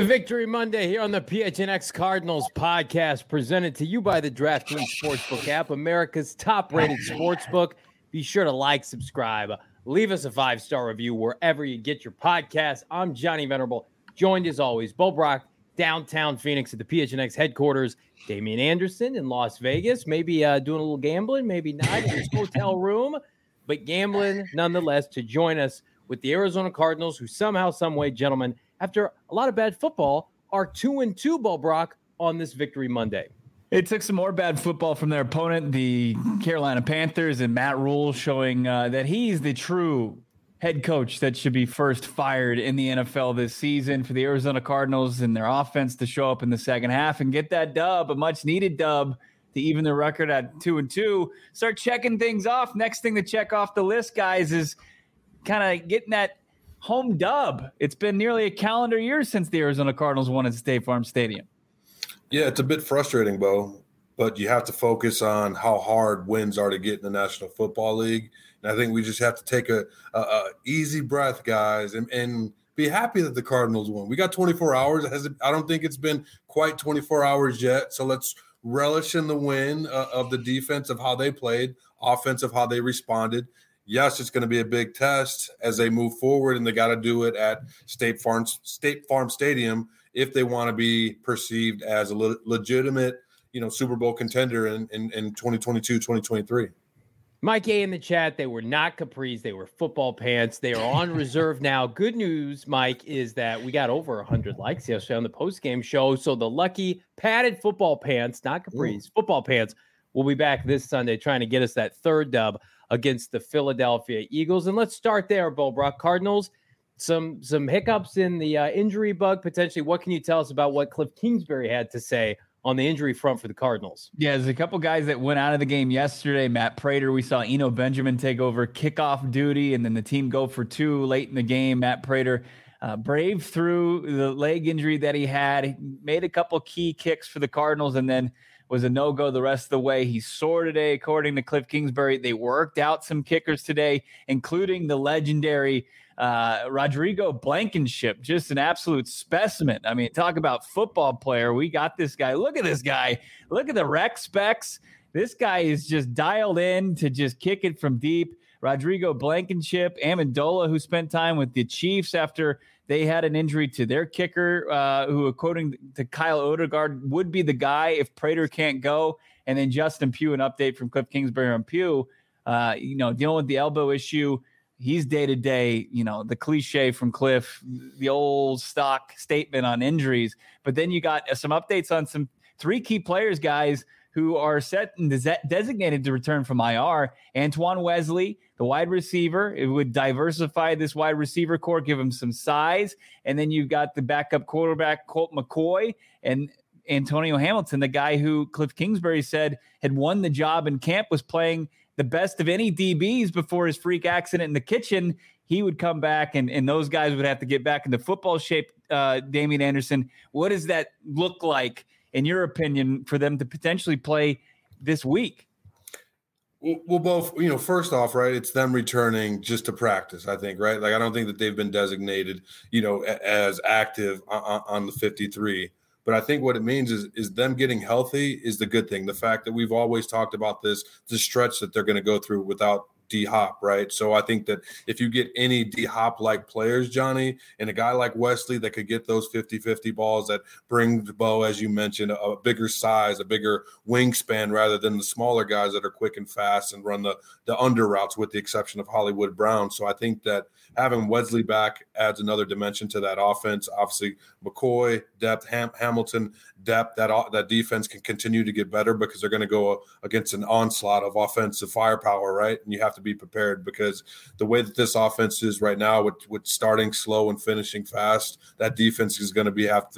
Victory Monday here on the PHNX Cardinals podcast, presented to you by the DraftKings Sportsbook app, America's top-rated sportsbook. Be sure to like, subscribe, leave us a 5-star review wherever you get your podcast. I'm Johnny Venerable, joined as always, Bo Brock, downtown Phoenix at the PHNX headquarters. Damian Anderson in Las Vegas, maybe doing a little gambling, maybe not in his hotel room, but gambling nonetheless to join us with the Arizona Cardinals, who somehow, some way, gentlemen, after a lot of bad football, are 2-2, Bo Brock, on this Victory Monday. It took some more bad football from their opponent, the Carolina Panthers, and Matt Rule showing that he's the true head coach that should be first fired in the NFL this season, for the Arizona Cardinals and their offense to show up in the second half and get that dub, a much-needed dub, to even the record at 2-2. Start checking things off. Next thing to check off the list, guys, is kind of getting that home dub. It's been nearly a calendar year since the Arizona Cardinals won at State Farm Stadium. Yeah, it's a bit frustrating, Bo, but you have to focus on how hard wins are to get in the National Football League. And I think we just have to take a easy breath, guys, and be happy that the Cardinals won. We got 24 hours. I don't think it's been quite 24 hours yet. So let's relish in the win of the defense, of how they played, offense of how they responded. Yes, it's going to be a big test as they move forward, and they got to do it at State Farm Stadium if they want to be perceived as a legitimate, Super Bowl contender in 2022, 2023. Mike A in the chat, they were not capris, they were football pants. They are on reserve now. Good news, Mike, is that we got over 100 likes yesterday on the post-game show. So the lucky padded football pants, not capris, football pants, will be back this Sunday trying to get us that third dub against the Philadelphia Eagles. And let's start there, Bo Brock. Cardinals, some hiccups in the injury bug, potentially. What can you tell us about what Cliff Kingsbury had to say on the injury front for the Cardinals? Yeah, there's a couple guys that went out of the game yesterday. Matt Prater, we saw Eno Benjamin take over kickoff duty, and then the team go for two late in the game. Matt Prater braved through the leg injury that he had. He made a couple key kicks for the Cardinals, and then was a no-go the rest of the way. He's sore today, according to Cliff Kingsbury. They worked out some kickers today, including the legendary Rodrigo Blankenship, just an absolute specimen. I mean, talk about football player. We got this guy. Look at this guy. Look at the rec specs. This guy is just dialed in to just kick it from deep. Rodrigo Blankenship, Amendola, who spent time with the Chiefs after they had an injury to their kicker, who, according to Kyle Odegaard, would be the guy if Prater can't go. And then Justin Pugh, an update from Cliff Kingsbury on Pugh, dealing with the elbow issue. He's day-to-day, the cliche from Cliff, the old stock statement on injuries. But then you got some updates on some three key players, guys, who are set and designated to return from IR. Antoine Wesley, the wide receiver. It would diversify this wide receiver core, give him some size. And then you've got the backup quarterback, Colt McCoy, and Antonio Hamilton, the guy who Cliff Kingsbury said had won the job in camp, was playing the best of any DBs before his freak accident in the kitchen. He would come back, and those guys would have to get back into football shape. Damian Anderson, what does that look like, in your opinion, for them to potentially play this week? Well, both, first off, right, it's them returning just to practice, I think, right? Like, I don't think that they've been designated, as active on the 53. But I think what it means is them getting healthy is the good thing. The fact that we've always talked about the stretch that they're going to go through without D-Hop, right? So I think that if you get any D-Hop-like players, Johnny, and a guy like Wesley that could get those 50-50 balls that bring the Bo, as you mentioned, a bigger size, a bigger wingspan rather than the smaller guys that are quick and fast and run the under routes, with the exception of Hollywood Brown. So I think that having Wesley back adds another dimension to that offense. Obviously, McCoy, depth, Hamilton, depth, that defense can continue to get better because they're going to go against an onslaught of offensive firepower, right? And you have to be prepared, because the way that this offense is right now, with starting slow and finishing fast, that defense is going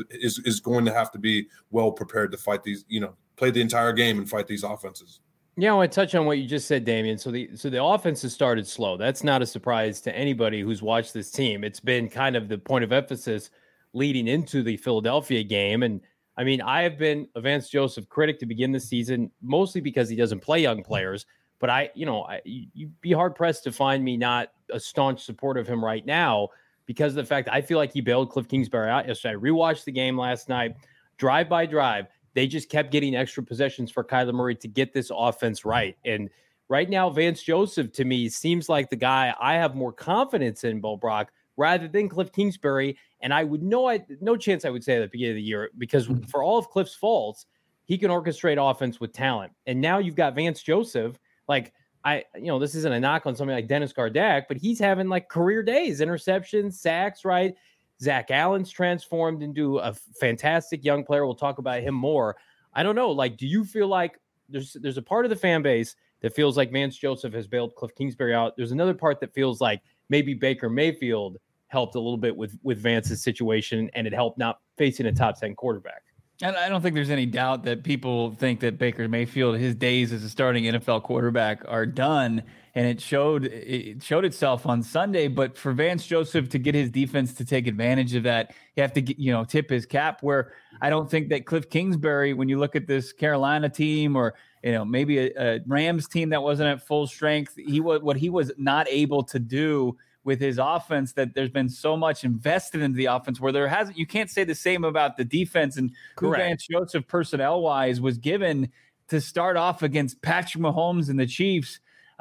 to have to be well prepared to fight these, play the entire game and fight these offenses. Yeah, I want to touch on what you just said, Damian. So the offense has started slow. That's not a surprise to anybody who's watched this team. It's been kind of the point of emphasis leading into the Philadelphia game. And I mean, I have been a Vance Joseph critic to begin the season, mostly because he doesn't play young players. But you'd be hard pressed to find me not a staunch supporter of him right now. because of the fact I feel like he bailed Cliff Kingsbury out yesterday. I rewatched the game last night, drive by drive. They just kept getting extra possessions for Kyler Murray to get this offense right. And right now, Vance Joseph, to me, seems like the guy I have more confidence in, Bo Brock, rather than Cliff Kingsbury. And I would no chance I would say at the beginning of the year, because for all of Cliff's faults, he can orchestrate offense with talent. And now you've got Vance Joseph. Like, this isn't a knock on somebody like Dennis Gardeck, but he's having like career days, interceptions, sacks, right? Zach Allen's transformed into a fantastic young player. We'll talk about him more. I don't know. Like, do you feel like there's a part of the fan base that feels like Vance Joseph has bailed Cliff Kingsbury out? There's another part that feels like maybe Baker Mayfield helped a little bit with Vance's situation, and it helped not facing a top 10 quarterback. And I don't think there's any doubt that people think that Baker Mayfield, his days as a starting NFL quarterback are done. And it showed itself on Sunday. But for Vance Joseph to get his defense to take advantage of that, you have to tip his cap. Where I don't think that Cliff Kingsbury, when you look at this Carolina team or maybe a Rams team that wasn't at full strength, he was not able to do with his offense, that there's been so much invested into the offense where you can't say the same about the defense. And who Vance Joseph personnel wise was given to start off against Patrick Mahomes and the Chiefs.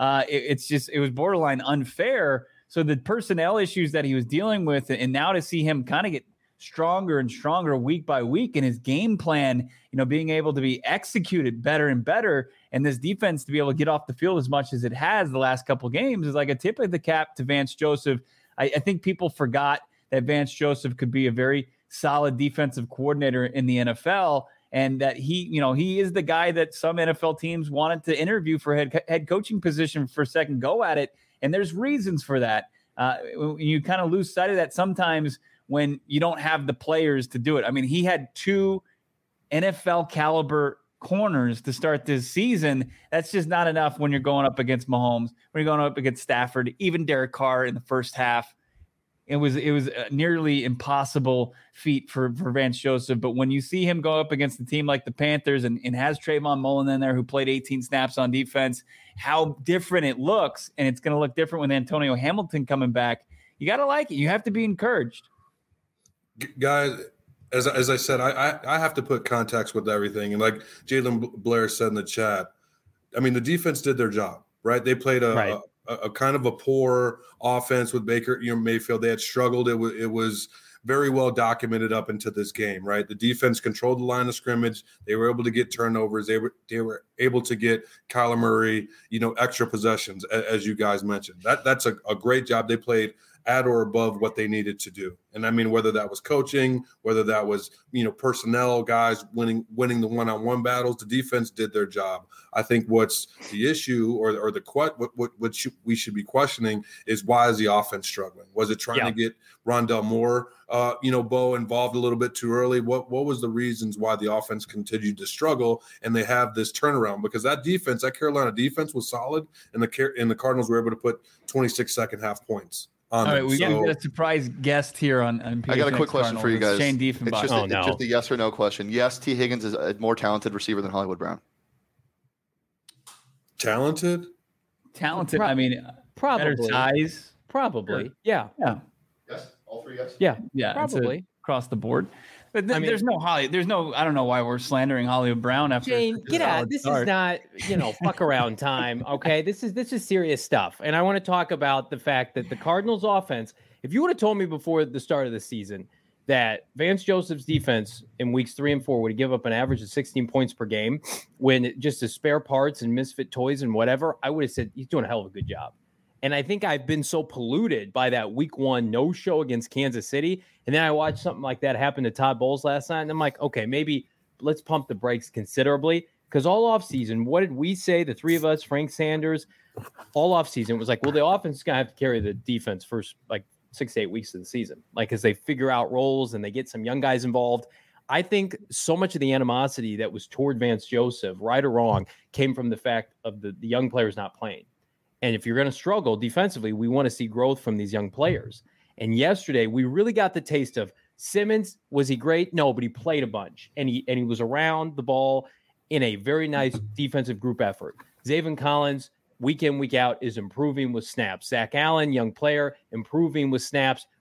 It was borderline unfair. So the personnel issues that he was dealing with, and now to see him kind of get stronger and stronger week by week, and his game plan, being able to be executed better and better, and this defense to be able to get off the field as much as it has the last couple of games is like a tip of the cap to Vance Joseph. I think people forgot that Vance Joseph could be a very solid defensive coordinator in the NFL, and that he is the guy that some NFL teams wanted to interview for head coaching position for second go at it. And there's reasons for that. You kind of lose sight of that sometimes when you don't have the players to do it. I mean, he had 2 NFL caliber corners to start this season. That's just not enough when you're going up against Mahomes, when you're going up against Stafford, even Derek Carr in the first half. It was a nearly impossible feat for Vance Joseph. But when you see him go up against a team like the Panthers and has Trayvon Mullen in there who played 18 snaps on defense, how different it looks. And it's going to look different with Antonio Hamilton coming back. You got to like it. You have to be encouraged. Guys, as I said, I have to put context with everything. And like Jalen Blair said in the chat, I mean, the defense did their job, right? They played a kind of a poor offense with Baker Mayfield. They had struggled. It was very well documented up into this game, right? The defense controlled the line of scrimmage. They were able to get turnovers. They were able to get Kyler Murray, extra possessions, as you guys mentioned. That's a great job. They played at or above what they needed to do. And I mean, whether that was coaching, whether that was, personnel guys winning the one-on-one battles, the defense did their job. I think what's the issue or what we should be questioning is, why is the offense struggling? Was it trying to get Rondell Moore, Bo, involved a little bit too early? What was the reasons why the offense continued to struggle and they have this turnaround? Because that Carolina defense was solid, and the Cardinals were able to put 26 second half points. All right, we got a surprise guest here on I got a quick question for you guys. Shane Diefenbach. It's just a yes or no question. Yes, T. Higgins is a more talented receiver than Hollywood Brown. Talented? I mean, probably better size. Probably. Yeah. Yes, all 3 yes. Yeah, probably across the board. But there's no I don't know why we're slandering Hollywood Brown after. Jane, get out. This is not, fuck around time. Okay. This is serious stuff. And I want to talk about the fact that the Cardinals offense, if you would have told me before the start of the season that Vance Joseph's defense in weeks 3 and 4 would give up an average of 16 points per game when just the spare parts and misfit toys and whatever, I would have said he's doing a hell of a good job. And I think I've been so polluted by that week 1 no-show against Kansas City. And then I watched something like that happen to Todd Bowles last night. And I'm like, okay, maybe let's pump the brakes considerably. Because all offseason, what did we say, the 3 of us, Frank Sanders, all offseason was like, well, the offense is going to have to carry the defense first, 6 to 8 weeks of the season. As they figure out roles and they get some young guys involved. I think so much of the animosity that was toward Vance Joseph, right or wrong, came from the fact of the young players not playing. And if you're going to struggle defensively, we want to see growth from these young players. And yesterday, we really got the taste of Simmons. Was he great? No, but he played a bunch. And he was around the ball in a very nice defensive group effort. Zaven Collins, week in, week out, is improving with snaps. Zach Allen, young player, improving with snaps.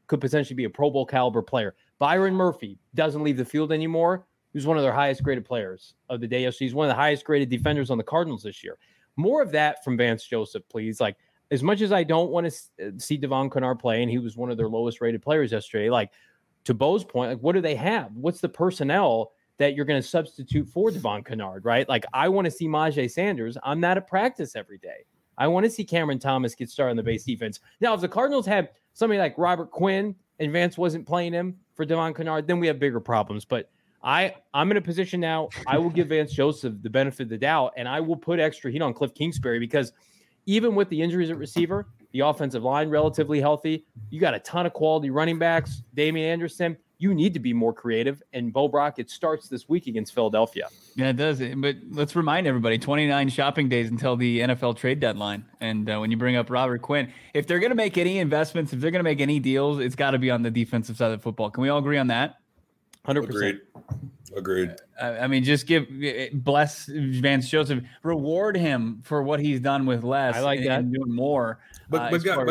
could potentially be a Pro Bowl caliber player. Byron Murphy doesn't leave the field anymore. He was one of their highest graded players of the day. He's one of the highest graded defenders on the Cardinals this year. More of that from Vance Joseph, please. Like, as much as I don't want to see Devon Kennard play, and he was one of their lowest rated players yesterday, like, to Bo's point, like, what do they have? What's the personnel that you're going to substitute for Devon Kennard, right? Like, I want to see Myjai Sanders. I'm not at practice every day. I want to see Cameron Thomas get started on the base defense. Now, if the Cardinals had somebody like Robert Quinn and Vance wasn't playing him for Devon Kennard, then we have bigger problems. But I'm in a position now. I will give Vance Joseph the benefit of the doubt, and I will put extra heat on Cliff Kingsbury because even with the injuries at receiver, the offensive line relatively healthy, you got a ton of quality running backs. Damian Anderson, you need to be more creative. And Bo Brock, it starts this week against Philadelphia. Yeah, it does. But let's remind everybody, 29 shopping days until the NFL trade deadline. And when you bring up Robert Quinn, if they're going to make any investments, if they're going to make any deals, it's got to be on the defensive side of football. Can we all agree on that? 100%. Agreed. I mean, just bless Vance Joseph, reward him for what he's done with less. I like that. And doing more. But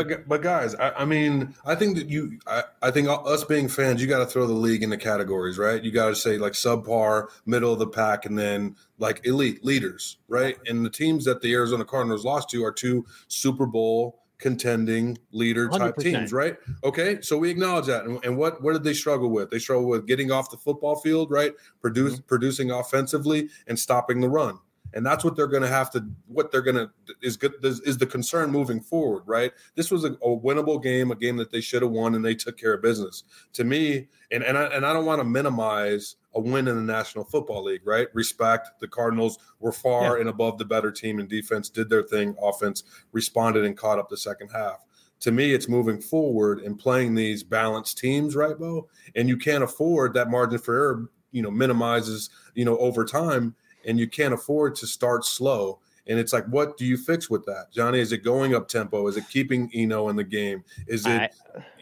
guys, I mean, I think that I think us being fans, you got to throw the league into categories, right? You got to say like subpar, middle of the pack, and then like elite leaders, right? And the teams that the Arizona Cardinals lost to are 2 Super Bowl contending leader type 100%. teams, right? Okay, so we acknowledge that. And what did they struggle with? They struggle with getting off the football field, right? Producing offensively and stopping the run. And that's what they're going to have to. What they're going to is the concern moving forward, right? This was a winnable game, a game that they should have won, and they took care of business. To me, and I don't want to minimize a win in the National Football League, right? Respect. The Cardinals were far and above the better team in defense, did their thing, offense responded and caught up the second half. To me, it's moving forward and playing these balanced teams, right, Bo? And you can't afford that margin for error, minimizes, over time. And you can't afford to start slow. And it's like, what do you fix with that, Johnny? Is it going up tempo? Is it keeping Eno in the game? Is it,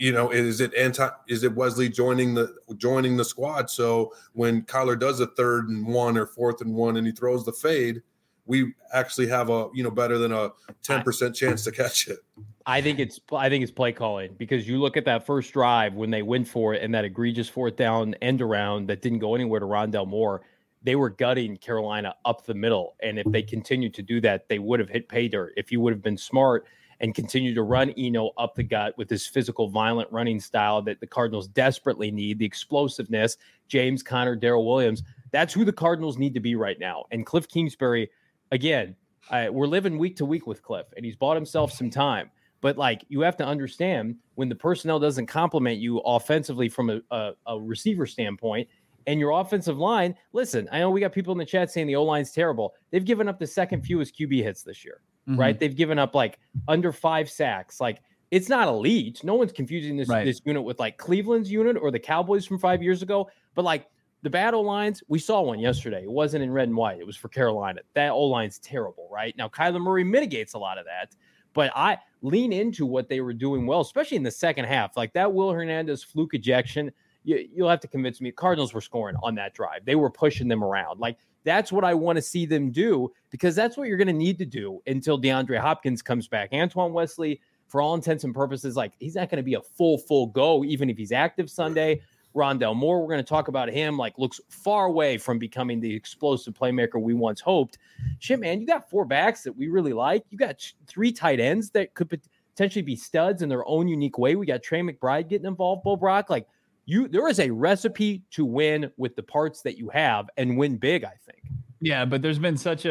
is it Wesley joining the squad? So when Kyler does a 3rd and 1 or 4th and 1 and he throws the fade, we actually have a better than a 10% chance to catch it. I think it's play calling, because you look at that first drive when they went for it and that egregious 4th down end around that didn't go anywhere to Rondale Moore. They were gutting Carolina up the middle. And if they continued to do that, they would have hit pay dirt. If you would have been smart and continued to run Eno up the gut with his physical, violent running style that the Cardinals desperately need, the explosiveness, James Conner, Darrell Williams, that's who the Cardinals need to be right now. And Cliff Kingsbury, again, we're living week to week with Cliff, and he's bought himself some time. But, like, you have to understand, when the personnel doesn't complement you offensively from a receiver standpoint, and your offensive line, listen, I know we got people in the chat saying the O-line's terrible. They've given up the second fewest QB hits this year, right? They've given up like under 5 sacks. Like, it's not elite. No one's confusing this unit with like Cleveland's unit or the Cowboys from 5 years ago. But like the bad O-lines, we saw one yesterday. It wasn't in red and white. It was for Carolina. That O-line's terrible, right? Now, Kyler Murray mitigates a lot of that. But I lean into what they were doing well, especially in the second half. Like that Will Hernandez fluke ejection, you'll have to convince me. Cardinals were scoring on that drive. They were pushing them around. Like, that's what I want to see them do, because that's what you're going to need to do until DeAndre Hopkins comes back. Antoine Wesley, for all intents and purposes, like, he's not going to be a full go, even if he's active Sunday. Rondale Moore, we're going to talk about him, like, looks far away from becoming the explosive playmaker we once hoped. Shit, man, you got 4 backs that we really like. You got 3 tight ends that could potentially be studs in their own unique way. We got Trey McBride getting involved, Bo Brock. Like, there is a recipe to win with the parts that you have and win big, I think. Yeah, but there's been so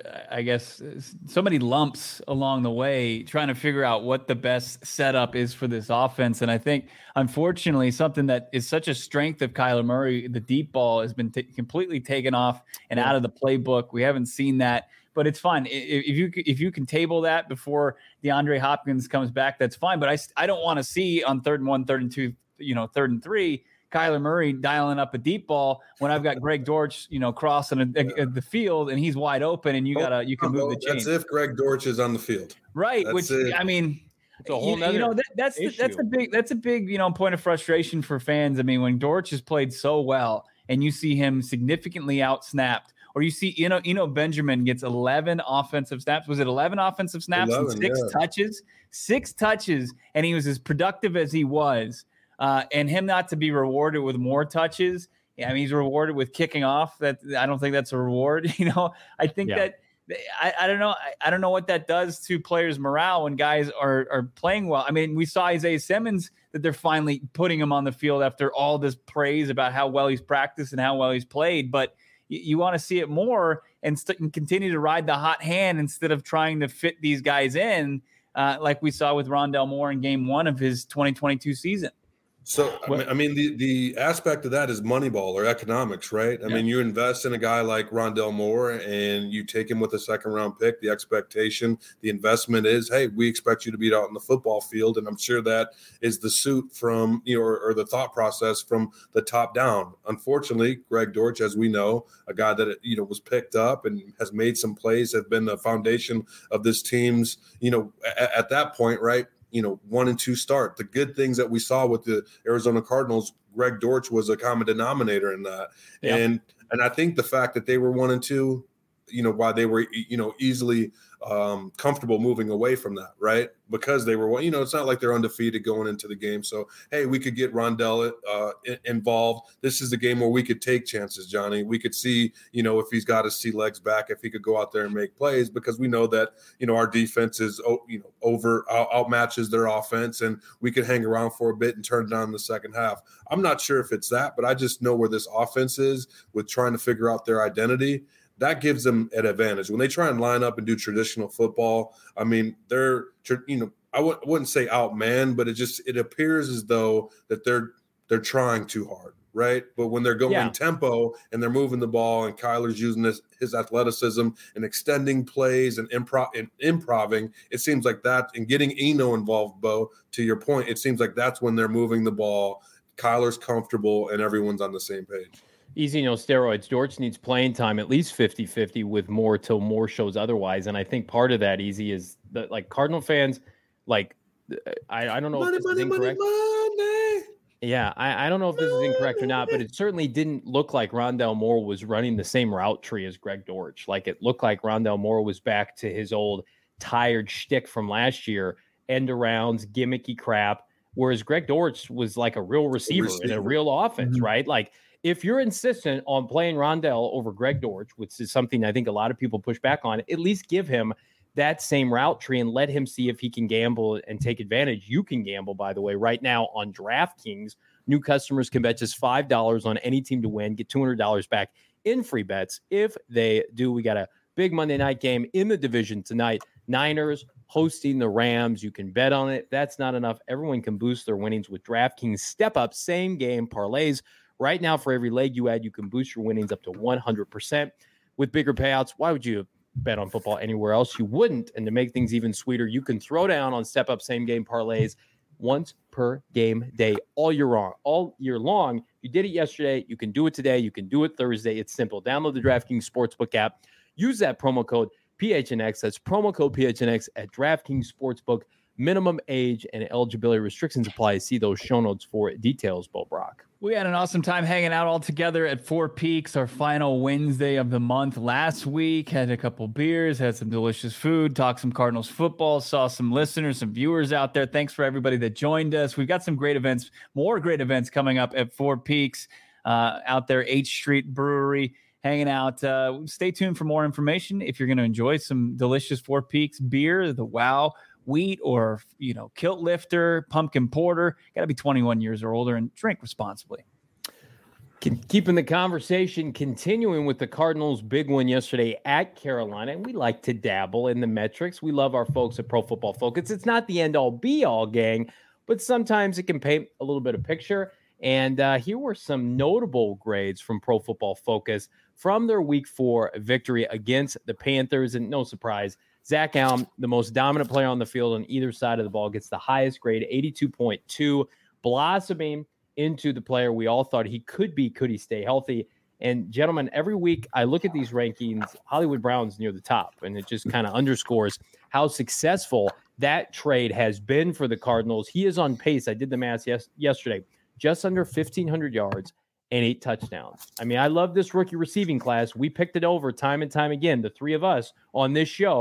many lumps along the way trying to figure out what the best setup is for this offense. And I think, unfortunately, something that is such a strength of Kyler Murray, the deep ball, has been completely taken off and out of the playbook. We haven't seen that, but it's fine. If you can table that before DeAndre Hopkins comes back, that's fine. But I don't want to see on 3rd and 1, 3rd and 2, 3rd and 3, Kyler Murray dialing up a deep ball when I've got Greg Dortch, crossing the field and he's wide open, and you can move the chain. That's if Greg Dortch is on the field, right? I mean, it's a whole nother that's a big point of frustration for fans. I mean, when Dortch has played so well and you see him significantly out-snapped, or you see Eno Benjamin gets 11 offensive snaps. Was it 11 offensive snaps 11, and 6 touches? 6 touches, and he was as productive as he was. and him not to be rewarded with more touches. I mean, he's rewarded with kicking off. That I don't think that's a reward. I think that I don't know. I don't know what that does to players' morale when guys are playing well. I mean, we saw Isaiah Simmons that they're finally putting him on the field after all this praise about how well he's practiced and how well he's played. But you want to see it more and continue to ride the hot hand instead of trying to fit these guys in like we saw with Rondale Moore in game 1 of his 2022 season. So, I mean, the aspect of that is Moneyball or economics, right? I mean, you invest in a guy like Rondale Moore and you take him with a second-round pick. The expectation, the investment is, hey, we expect you to be out in the football field. And I'm sure that is the suit from, or the thought process from the top down. Unfortunately, Greg Dortch, as we know, a guy that, was picked up and has made some plays, have been the foundation of this team's, at that point, right? 1 and 2 start. The good things that we saw with the Arizona Cardinals, Greg Dortch was a common denominator in that. Yeah. And I think the fact that they were 1 and 2, why they were, easily comfortable moving away from that, right? Because they were, it's not like they're undefeated going into the game. So, hey, we could get Rondale involved. This is the game where we could take chances, Johnny. We could see, if he's got his sea legs back, if he could go out there and make plays, because we know that, our defense is, outmatches their offense, and we could hang around for a bit and turn it on in the second half. I'm not sure if it's that, but I just know where this offense is with trying to figure out their identity. That gives them an advantage. When they try and line up and do traditional football, I mean, they're, I wouldn't say outmanned, but it appears as though that they're trying too hard, right? But when they're going tempo and they're moving the ball and Kyler's using his athleticism and extending plays and improving, it seems like that, and getting Eno involved, Bo, to your point, it seems like that's when they're moving the ball. Kyler's comfortable and everyone's on the same page. Easy, no steroids. Dortch needs playing time, at least 50-50 with Moore till Moore shows otherwise. And I think part of that, Easy, is that, like, Cardinal fans, like, I don't know if this is incorrect. Yeah, I don't know if this is incorrect or not, but it certainly didn't look like Rondale Moore was running the same route tree as Greg Dortch. Like, it looked like Rondale Moore was back to his old tired shtick from last year, end arounds, gimmicky crap, whereas Greg Dortch was like a real receiver in a real offense, right? Like, if you're insistent on playing Rondale over Greg Dortch, which is something I think a lot of people push back on, at least give him that same route tree and let him see if he can gamble and take advantage. You can gamble, by the way, right now on DraftKings. New customers can bet just $5 on any team to win, get $200 back in free bets if they do. We got a big Monday night game in the division tonight. Niners hosting the Rams. You can bet on it. That's not enough. Everyone can boost their winnings with DraftKings step-up same-game parlays. Right now, for every leg you add, you can boost your winnings up to 100%. With bigger payouts, why would you bet on football anywhere else? You wouldn't. And to make things even sweeter, you can throw down on step-up same-game parlays once per game day all year long. You did it yesterday. You can do it today. You can do it Thursday. It's simple. Download the DraftKings Sportsbook app. Use that promo code PHNX. That's promo code PHNX at DraftKings Sportsbook. Minimum age and eligibility restrictions apply. See those show notes for details, Bo Brock. We had an awesome time hanging out all together at Four Peaks, our final Wednesday of the month last week. Had a couple beers, had some delicious food, talked some Cardinals football, saw some listeners, some viewers out there. Thanks for everybody that joined us. We've got some great events, more great events coming up at Four Peaks out there, H Street Brewery, hanging out. Stay tuned for more information. If you're going to enjoy some delicious Four Peaks beer, the Wow Wheat or, Kilt Lifter, Pumpkin Porter, got to be 21 years or older and drink responsibly. Keeping the conversation continuing with the Cardinals' big win yesterday at Carolina. And we like to dabble in the metrics. We love our folks at Pro Football Focus. It's not the end-all, be-all, gang, but sometimes it can paint a little bit of picture. And here were some notable grades from Pro Football Focus from their Week 4 victory against the Panthers. And no surprise, Zach Allen, the most dominant player on the field on either side of the ball, gets the highest grade, 82.2, blossoming into the player we all thought he could be. Could he stay healthy? And gentlemen, every week I look at these rankings, Hollywood Brown's near the top, and it just kind of underscores how successful that trade has been for the Cardinals. He is on pace. I did the math yesterday, just under 1,500 yards and 8 touchdowns. I mean, I love this rookie receiving class. We picked it over time and time again, the three of us on this show.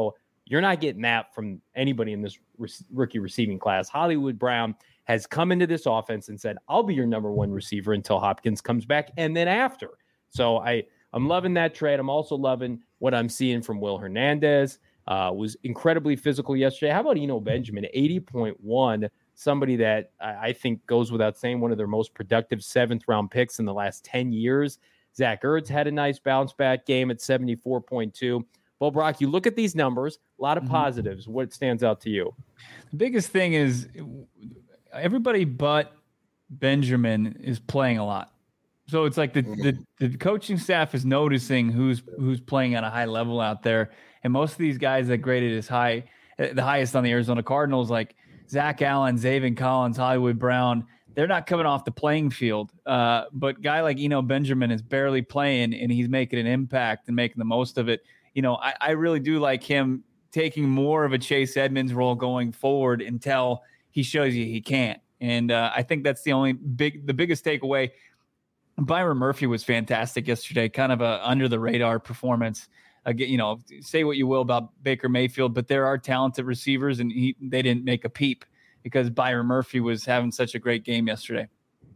You're not getting that from anybody in this rookie receiving class. Hollywood Brown has come into this offense and said, I'll be your number one receiver until Hopkins comes back and then after. So I'm loving that trade. I'm also loving what I'm seeing from Will Hernandez. Was incredibly physical yesterday. How about Eno Benjamin, 80.1, somebody that I think goes without saying, one of their most productive 7th-round picks in the last 10 years. Zach Ertz had a nice bounce-back game at 74.2. Well, Brock, you look at these numbers, a lot of positives. What stands out to you? The biggest thing is everybody but Benjamin is playing a lot. So it's like the coaching staff is noticing who's playing at a high level out there. And most of these guys that graded as high, the highest on the Arizona Cardinals, like Zach Allen, Zaven Collins, Hollywood Brown, they're not coming off the playing field. But guy like Eno Benjamin is barely playing, and he's making an impact and making the most of it. You know, I really do like him taking more of a Chase Edmonds role going forward until he shows you he can't. And I think that's the biggest takeaway. Byron Murphy was fantastic yesterday, kind of a under the radar performance. Again, you know, say what you will about Baker Mayfield, but there are talented receivers, and they didn't make a peep because Byron Murphy was having such a great game yesterday.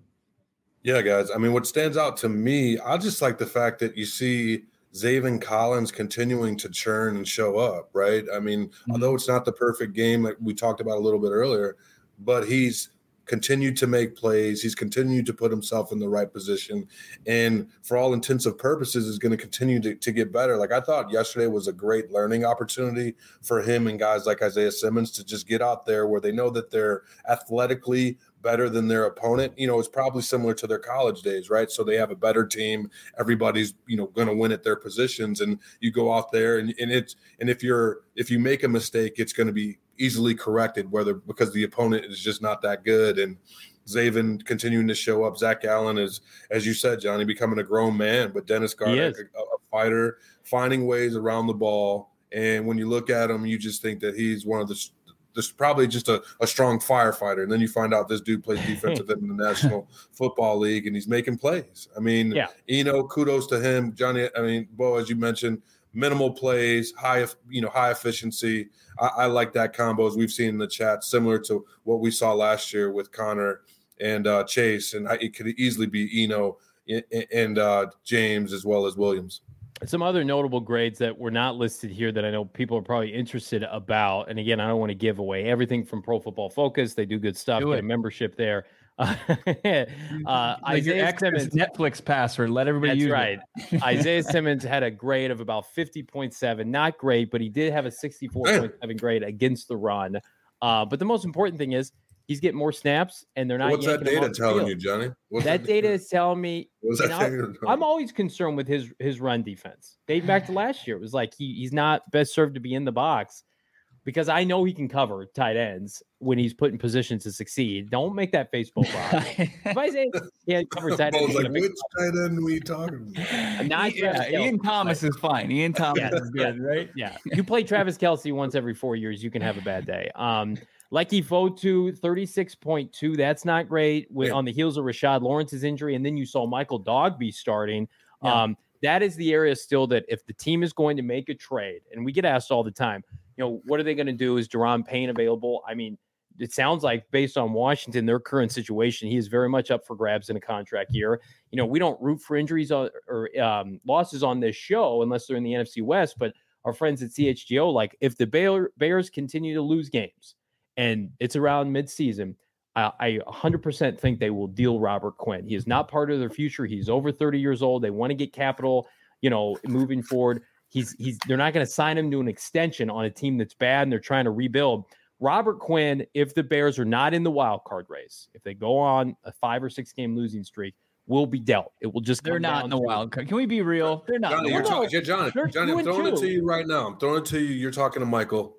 Yeah, guys. I mean, what stands out to me, I just like the fact that you see Zaven Collins continuing to churn and show up, right? I mean, although it's not the perfect game like we talked about a little bit earlier, but he's continued to make plays. He's continued to put himself in the right position. And for all intents and purposes, is going to continue to get better. Like, I thought yesterday was a great learning opportunity for him and guys like Isaiah Simmons to just get out there where they know that they're athletically better than their opponent. You know, it's probably similar to their college days, right? So they have a better team. Everybody's, you know, going to win at their positions, and you go out there and if you make a mistake, it's going to be easily corrected, because the opponent is just not that good. And Zaven continuing to show up. Zach Allen is, as you said, Johnny, becoming a grown man, but Dennis Gardeck, a fighter, finding ways around the ball. And when you look at him, you just think that he's one of there's probably just a strong firefighter. And then you find out this dude plays defensive end in the National Football League, and he's making plays. I mean, kudos to him. Johnny, I mean, Bo, as you mentioned, minimal plays, high efficiency. I like that combo, as we've seen in the chat, similar to what we saw last year with Connor and Chase. And it could easily be Eno and James as well as Williams. Some other notable grades that were not listed here that I know people are probably interested about. And again, I don't want to give away everything from Pro Football Focus. They do good stuff. Get a membership there. Isaiah Simmons, Netflix password. Let everybody use it. That's right. Isaiah Simmons had a grade of about 50.7. Not great, but he did have a 64.7 grade against the run. But the most important thing is he's getting more snaps, and they're not. What's that data telling you, Johnny? That data is telling me. I'm always concerned with his run defense. Dating back to last year, it was like he's not best served to be in the box, because I know he can cover tight ends when he's put in position to succeed. Don't make that face, Bo. If I say he had covered tight ends, like, which tight end are we talking about? Ian Thomas is fine. Ian Thomas is good, right? Yeah. You play Travis Kelce once every 4 years, you can have a bad day. Lucky Fotu, 36.2. That's not great on the heels of Rashad Lawrence's injury. And then you saw Michael Dogbe starting. Yeah. That is the area still that if the team is going to make a trade, and we get asked all the time, you know, what are they going to do? Is Daron Payne available? I mean, it sounds like based on Washington, their current situation, he is very much up for grabs in a contract year. You know, we don't root for injuries or losses on this show unless they're in the NFC West, but our friends at CHGO, like, if the Bears continue to lose games, and it's around midseason, I 100% think they will deal Robert Quinn. He is not part of their future. He's over 30 years old. They want to get capital, you know, moving forward. They're not going to sign him to an extension on a team that's bad and they're trying to rebuild. Robert Quinn, if the Bears are not in the wild card race, if they go on a 5 or 6 game losing streak, will be dealt. It will just. They're not in the wild card. Can we be real? They're not. Johnny, Johnny, I'm throwing it to you right now. I'm throwing it to you. You're talking to Michael.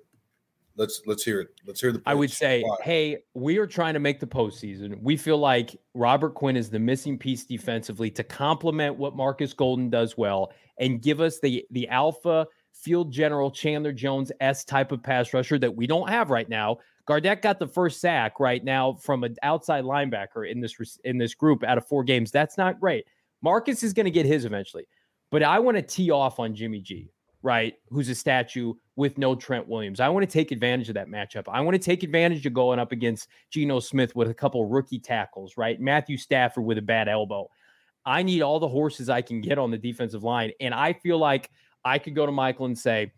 Let's hear it. Let's hear the pitch. I would say, hey, we are trying to make the postseason. We feel like Robert Quinn is the missing piece defensively to complement what Marcus Golden does well and give us the alpha field general Chandler Jones-esque type of pass rusher that we don't have right now. Gardeck got the first sack right now from an outside linebacker in this group out of 4 games. That's not great. Marcus is going to get his eventually. But I want to tee off on Jimmy G. right, who's a statue with no Trent Williams. I want to take advantage of that matchup. I want to take advantage of going up against Geno Smith with a couple rookie tackles, right? Matthew Stafford with a bad elbow. I need all the horses I can get on the defensive line. And I feel like I could go to Michael and say,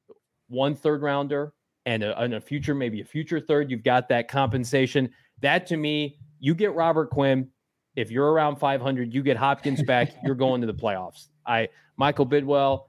1 third rounder and a future, maybe a future third. You've got that compensation. That to me, you get Robert Quinn. If you're around 500, you get Hopkins back. You're going to the playoffs. Michael Bidwell.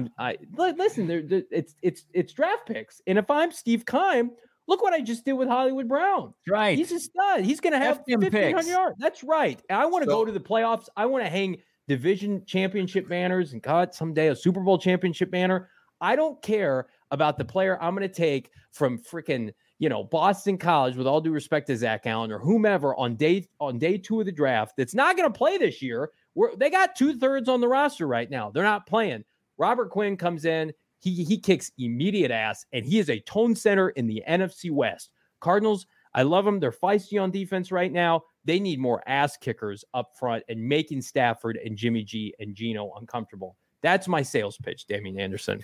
Listen. It's draft picks, and if I'm Steve Keim, look what I just did with Hollywood Brown. Right, he's a stud. He's going to have 1,500 yards. That's right. And I want to go to the playoffs. I want to hang division championship banners, and God, someday a Super Bowl championship banner. I don't care about the player I'm going to take from freaking Boston College, with all due respect to Zach Allen or whomever on day 2 of the draft that's not going to play this year. They got 2/3 on the roster right now. They're not playing. Robert Quinn comes in. He kicks immediate ass, and he is a tone setter in the NFC West. Cardinals, I love them. They're feisty on defense right now. They need more ass kickers up front and making Stafford and Jimmy G and Geno uncomfortable. That's my sales pitch, Damian Anderson.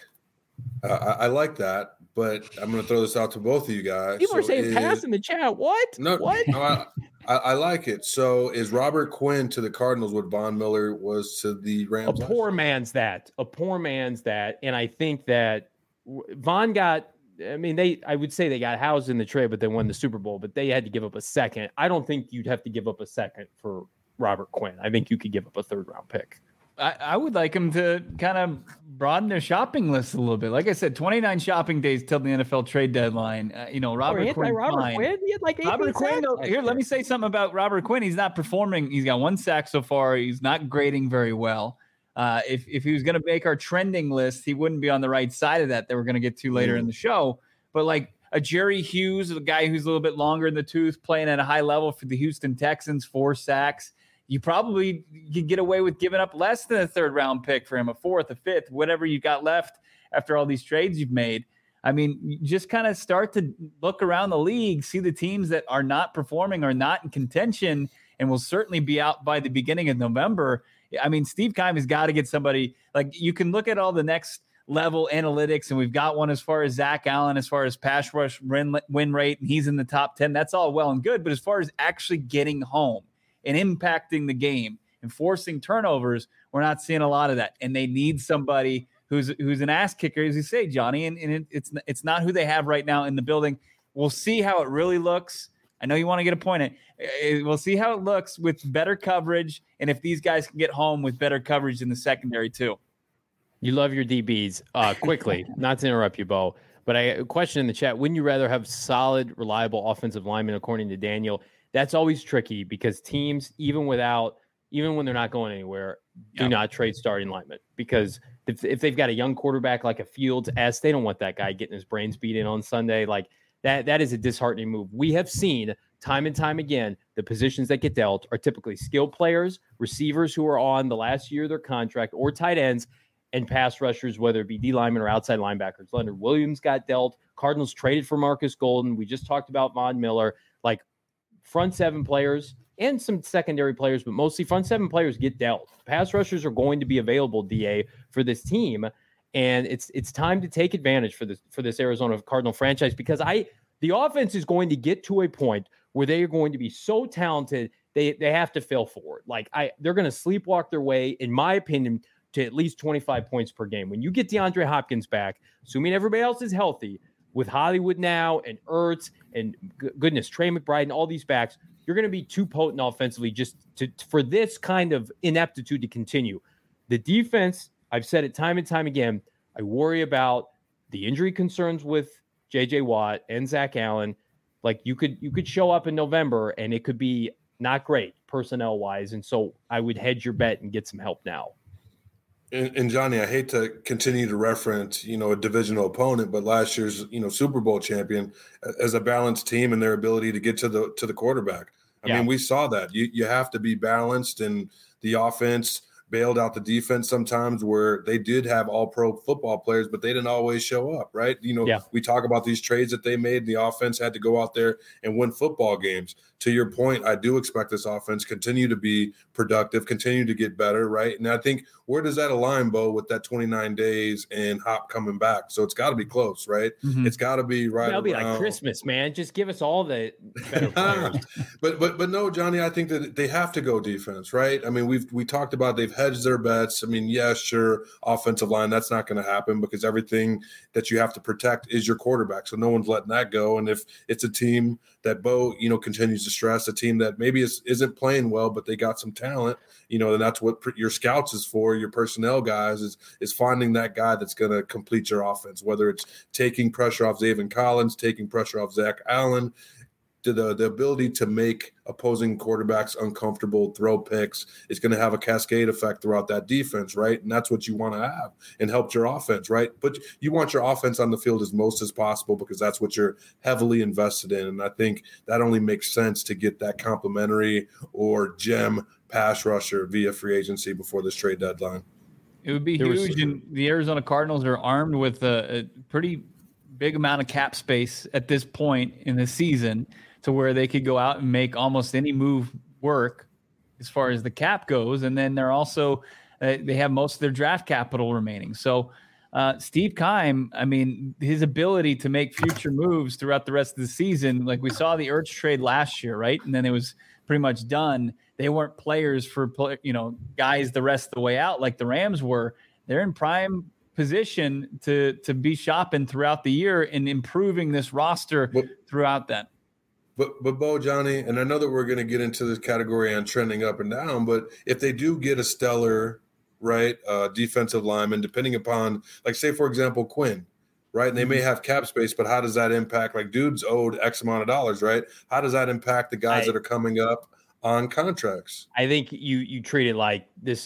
I like that, but I'm going to throw this out to both of you guys. People are saying pass in the chat. What? No, what? No, I like it. So is Robert Quinn to the Cardinals what Von Miller was to the Rams? A poor man's that. And I think that Von got, I would say they got housed in the trade, but they won the Super Bowl, but they had to give up a second. I don't think you'd have to give up a second for Robert Quinn. I think you could give up a 3rd round pick. I would like him to kind of broaden their shopping list a little bit. Like I said, 29 shopping days till the NFL trade deadline. Robert Quinn. He had like Robert Quinn. Let me say something about Robert Quinn. He's not performing. He's got 1 sack so far. He's not grading very well. If he was going to make our trending list, he wouldn't be on the right side of that we're going to get to later in the show. But like a Jerry Hughes, a guy who's a little bit longer in the tooth, playing at a high level for the Houston Texans, 4 sacks. You probably could get away with giving up less than a 3rd round pick for him, a 4th, a 5th, whatever you got left after all these trades you've made. You just kind of start to look around the league, see the teams that are not performing or not in contention and will certainly be out by the beginning of November. Steve Keim has got to get somebody. Like, you can look at all the next level analytics, and we've got one as far as Zach Allen, as far as pass rush win rate, and he's in the top 10. That's all well and good. But as far as actually getting home and impacting the game and forcing turnovers, we're not seeing a lot of that. And they need somebody who's an ass kicker, as you say, Johnny. And it's not who they have right now in the building. We'll see how it really looks. I know you want to get appointed. We'll see how it looks with better coverage, and if these guys can get home with better coverage in the secondary too. You love your DBs. Quickly, not to interrupt you, Bo, but a question in the chat. Wouldn't you rather have solid, reliable offensive linemen, according to Daniel? That's always tricky because teams, even when they're not going anywhere, do not trade starting linemen, because if they've got a young quarterback like a Fields, they don't want that guy getting his brains beat in on Sunday. Like that is a disheartening move. We have seen time and time again, the positions that get dealt are typically skilled players, receivers who are on the last year of their contract, or tight ends, and pass rushers, whether it be D linemen or outside linebackers. Leonard Williams got dealt. Cardinals traded for Marcus Golden. We just talked about Von Miller. Like, front 7 players and some secondary players, but mostly front 7 players get dealt. Pass rushers are going to be available, DA, for this team, and it's time to take advantage for this Arizona Cardinal franchise, because the offense is going to get to a point where they are going to be so talented they have to fail forward. Like, they're going to sleepwalk their way, in my opinion, to at least 25 points per game. When you get DeAndre Hopkins back, assuming everybody else is healthy, with Hollywood now and Ertz and goodness, Trey McBride and all these backs, you're going to be too potent offensively just for this kind of ineptitude to continue. The defense, I've said it time and time again, I worry about the injury concerns with J.J. Watt and Zach Allen. Like, you could show up in November and it could be not great personnel-wise, and so I would hedge your bet and get some help now. And Johnny, I hate to continue to reference, a divisional opponent, but last year's, Super Bowl champion as a balanced team and their ability to get to the quarterback. I mean, we saw that. You have to be balanced, and the offense bailed out the defense sometimes, where they did have all pro football players, but they didn't always show up, right? We talk about these trades that they made. The offense had to go out there and win football games. To your point, I do expect this offense continue to be productive, continue to get better, right? And I think, where does that align, Bo, with that 29 days and Hop coming back? So it's got to be close, right? Mm-hmm. It's got to be right. That'll be like Christmas, man. Just give us all the better players. But no, Johnny, I think that they have to go defense, right? I mean, we talked about they've hedged their bets. I mean, yeah, sure, offensive line, that's not going to happen because everything that you have to protect is your quarterback. So no one's letting that go. And if it's a team that Bo, continues to stress, a team that maybe isn't playing well, but they got some talent, then that's what your scouts is for, your personnel guys is finding that guy that's going to complete your offense, whether it's taking pressure off Zaven Collins, taking pressure off Zach Allen, to the ability to make opposing quarterbacks uncomfortable, throw picks. It's going to have a cascade effect throughout that defense, right? And that's what you want to have and help your offense, right? But you want your offense on the field as most as possible because that's what you're heavily invested in. And I think that only makes sense to get that complimentary or gem pass rusher via free agency before this trade deadline. It would be huge, and the Arizona Cardinals are armed with a pretty big amount of cap space at this point in the season, to where they could go out and make almost any move work as far as the cap goes. And then they're also, they have most of their draft capital remaining. So Steve Keim, I mean, his ability to make future moves throughout the rest of the season, like we saw the Ertz trade last year, right? And then it was pretty much done. They weren't players for, guys the rest of the way out like the Rams were. They're in prime position to be shopping throughout the year and improving this roster throughout that. But Bo, Johnny, and I know that we're going to get into this category on trending up and down, but if they do get a stellar, right, defensive lineman, depending upon, like, say, for example, Quinn, right, and they may have cap space, but how does that impact, like, dude's owed X amount of dollars, right? How does that impact the guys that are coming up on contracts? I think you treat it like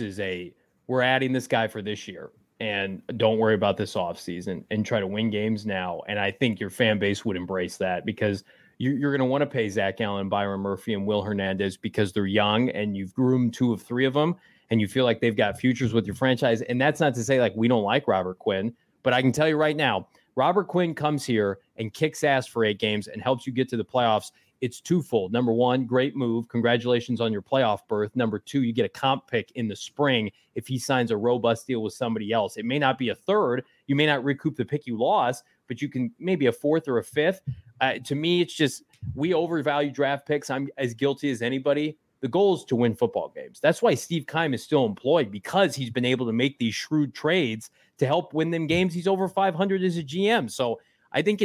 we're adding this guy for this year, and don't worry about this offseason and try to win games now. And I think your fan base would embrace that because you're going to want to pay Zach Allen, Byron Murphy, and Will Hernandez because they're young and you've groomed 2 of 3 of them and you feel like they've got futures with your franchise. And that's not to say like we don't like Robert Quinn, but I can tell you right now, Robert Quinn comes here and kicks ass for 8 games and helps you get to the playoffs. It's twofold. Number 1, great move. Congratulations on your playoff berth. Number 2, you get a comp pick in the spring if he signs a robust deal with somebody else. It may not be a third. You may not recoup the pick you lost, but you can maybe a 4th or a 5th. To me, it's just we overvalue draft picks. I'm as guilty as anybody. The goal is to win football games. That's why Steve Keim is still employed, because he's been able to make these shrewd trades to help win them games. He's over 500 as a GM. So I think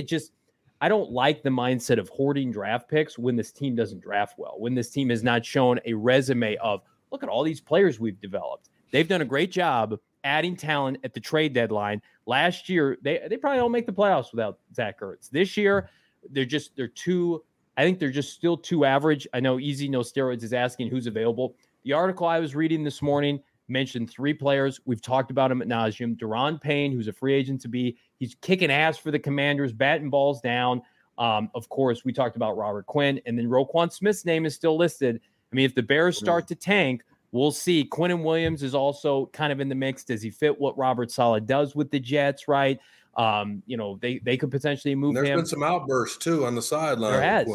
I don't like the mindset of hoarding draft picks when this team doesn't draft well, when this team has not shown a resume of, look at all these players we've developed. They've done a great job adding talent at the trade deadline. Last year, they probably don't make the playoffs without Zach Ertz. This year, they're just still too average. I know Easy No Steroids is asking who's available. The article I was reading this morning mentioned 3 players. We've talked about them ad nauseum. Daron Payne, who's a free agent to be. He's kicking ass for the Commanders, batting balls down. Of course, we talked about Robert Quinn. And then Roquan Smith's name is still listed. I mean, if the Bears start to tank, we'll see. Quinnen Williams is also kind of in the mix. Does he fit what Robert Saleh does with the Jets, right? They could potentially move him. There's been some outbursts, too, on the sideline. There has.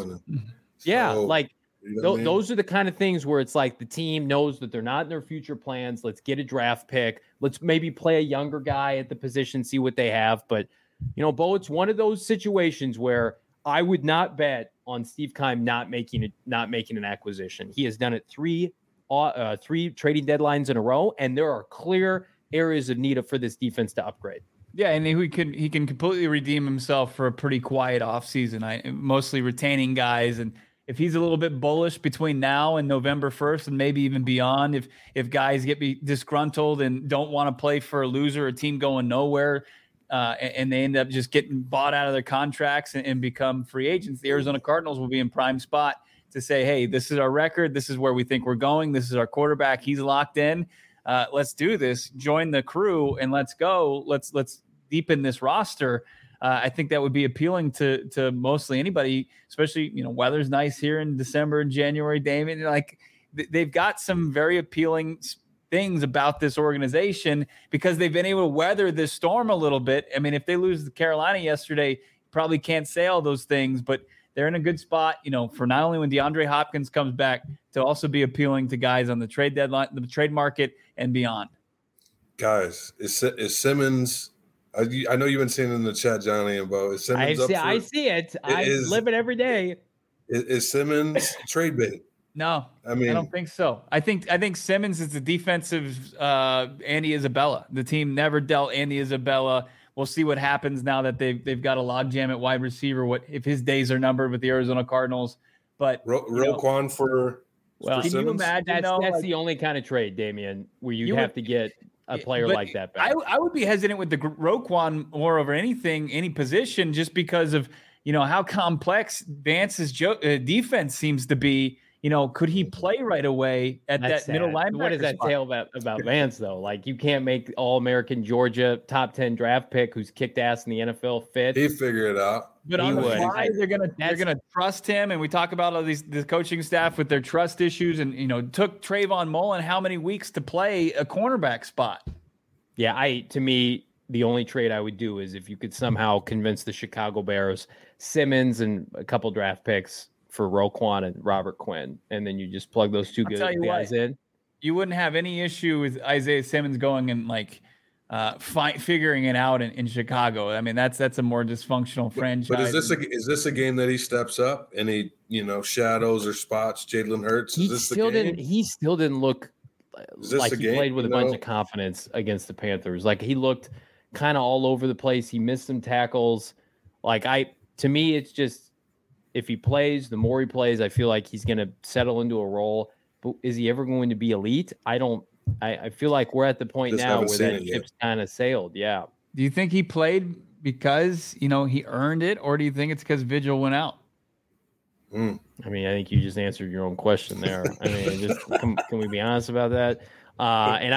Those are the kind of things where it's like the team knows that they're not in their future plans. Let's get a draft pick. Let's maybe play a younger guy at the position, see what they have. But, Bo, it's one of those situations where I would not bet on Steve Keim not making an acquisition. He has done it 3 trading deadlines in a row, and there are clear areas of need for this defense to upgrade. Yeah, and he can completely redeem himself for a pretty quiet offseason. Mostly retaining guys, and if he's a little bit bullish between now and November 1st and maybe even beyond, if guys get disgruntled and don't want to play for a loser, a team going nowhere, and they end up just getting bought out of their contracts and become free agents, the Arizona Cardinals will be in prime spot to say, hey, this is our record. This is where we think we're going. This is our quarterback. He's locked in. Let's do this. Join the crew and let's go. Let's deepen this roster. I think that would be appealing to mostly anybody, especially, weather's nice here in December and January, Damon. Like they've got some very appealing things about this organization because they've been able to weather this storm a little bit. I mean, if they lose to Carolina yesterday, probably can't say all those things, but they're in a good spot, for not only when DeAndre Hopkins comes back to also be appealing to guys on the trade deadline, the trade market and beyond. Guys, is Simmons? I know you've been seeing it in the chat, Johnny and Bo. Is Simmons I see it. I live it every day. Is Simmons trade bait? No, I don't think so. I think Simmons is the defensive Andy Isabella. The team never dealt Andy Isabella. We'll see what happens now that they've got a logjam at wide receiver. What if his days are numbered with the Arizona Cardinals? But Roquan for can you imagine? That's the only kind of trade, Damian, where you have to get a player like that back. I would be hesitant with the Roquan more over any position, just because of how complex Vance's defense seems to be. Could he play right away at that middle linebacker? What does that tell about Vance, though? Like, you can't make All-American Georgia top 10 draft pick who's kicked ass in the NFL fit. He figured it out. But on the fly, they're gonna trust him. And we talk about all the coaching staff with their trust issues, and took Trayvon Mullen how many weeks to play a cornerback spot? Yeah, to me, the only trade I would do is if you could somehow convince the Chicago Bears, Simmons and a couple draft picks for Roquan and Robert Quinn, and then you just plug those two guys in. You wouldn't have any issue with Isaiah Simmons going and figuring it out in Chicago. I mean, that's a more dysfunctional franchise. But is this a game that he steps up and he shadows or spots Jalen Hurts? He still didn't look like he played with a bunch of confidence against the Panthers. Like, he looked kind of all over the place. He missed some tackles. To me, it's just, if he plays, the more he plays, I feel like he's going to settle into a role. But is he ever going to be elite? I feel like we're at the point now where that ship's kind of sailed. Yeah. Do you think he played because, he earned it, or do you think it's because Vigil went out? I mean, I think you just answered your own question there. I mean, can we be honest about that? And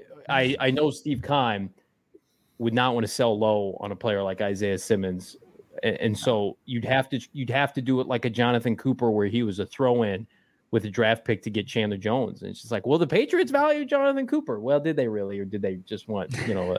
I know Steve Keim would not want to sell low on a player like Isaiah Simmons. And so you'd have to do it like a Jonathan Cooper, where he was a throw-in with a draft pick to get Chandler Jones. And it's just like, well, the Patriots value Jonathan Cooper. Well, did they really, or did they just want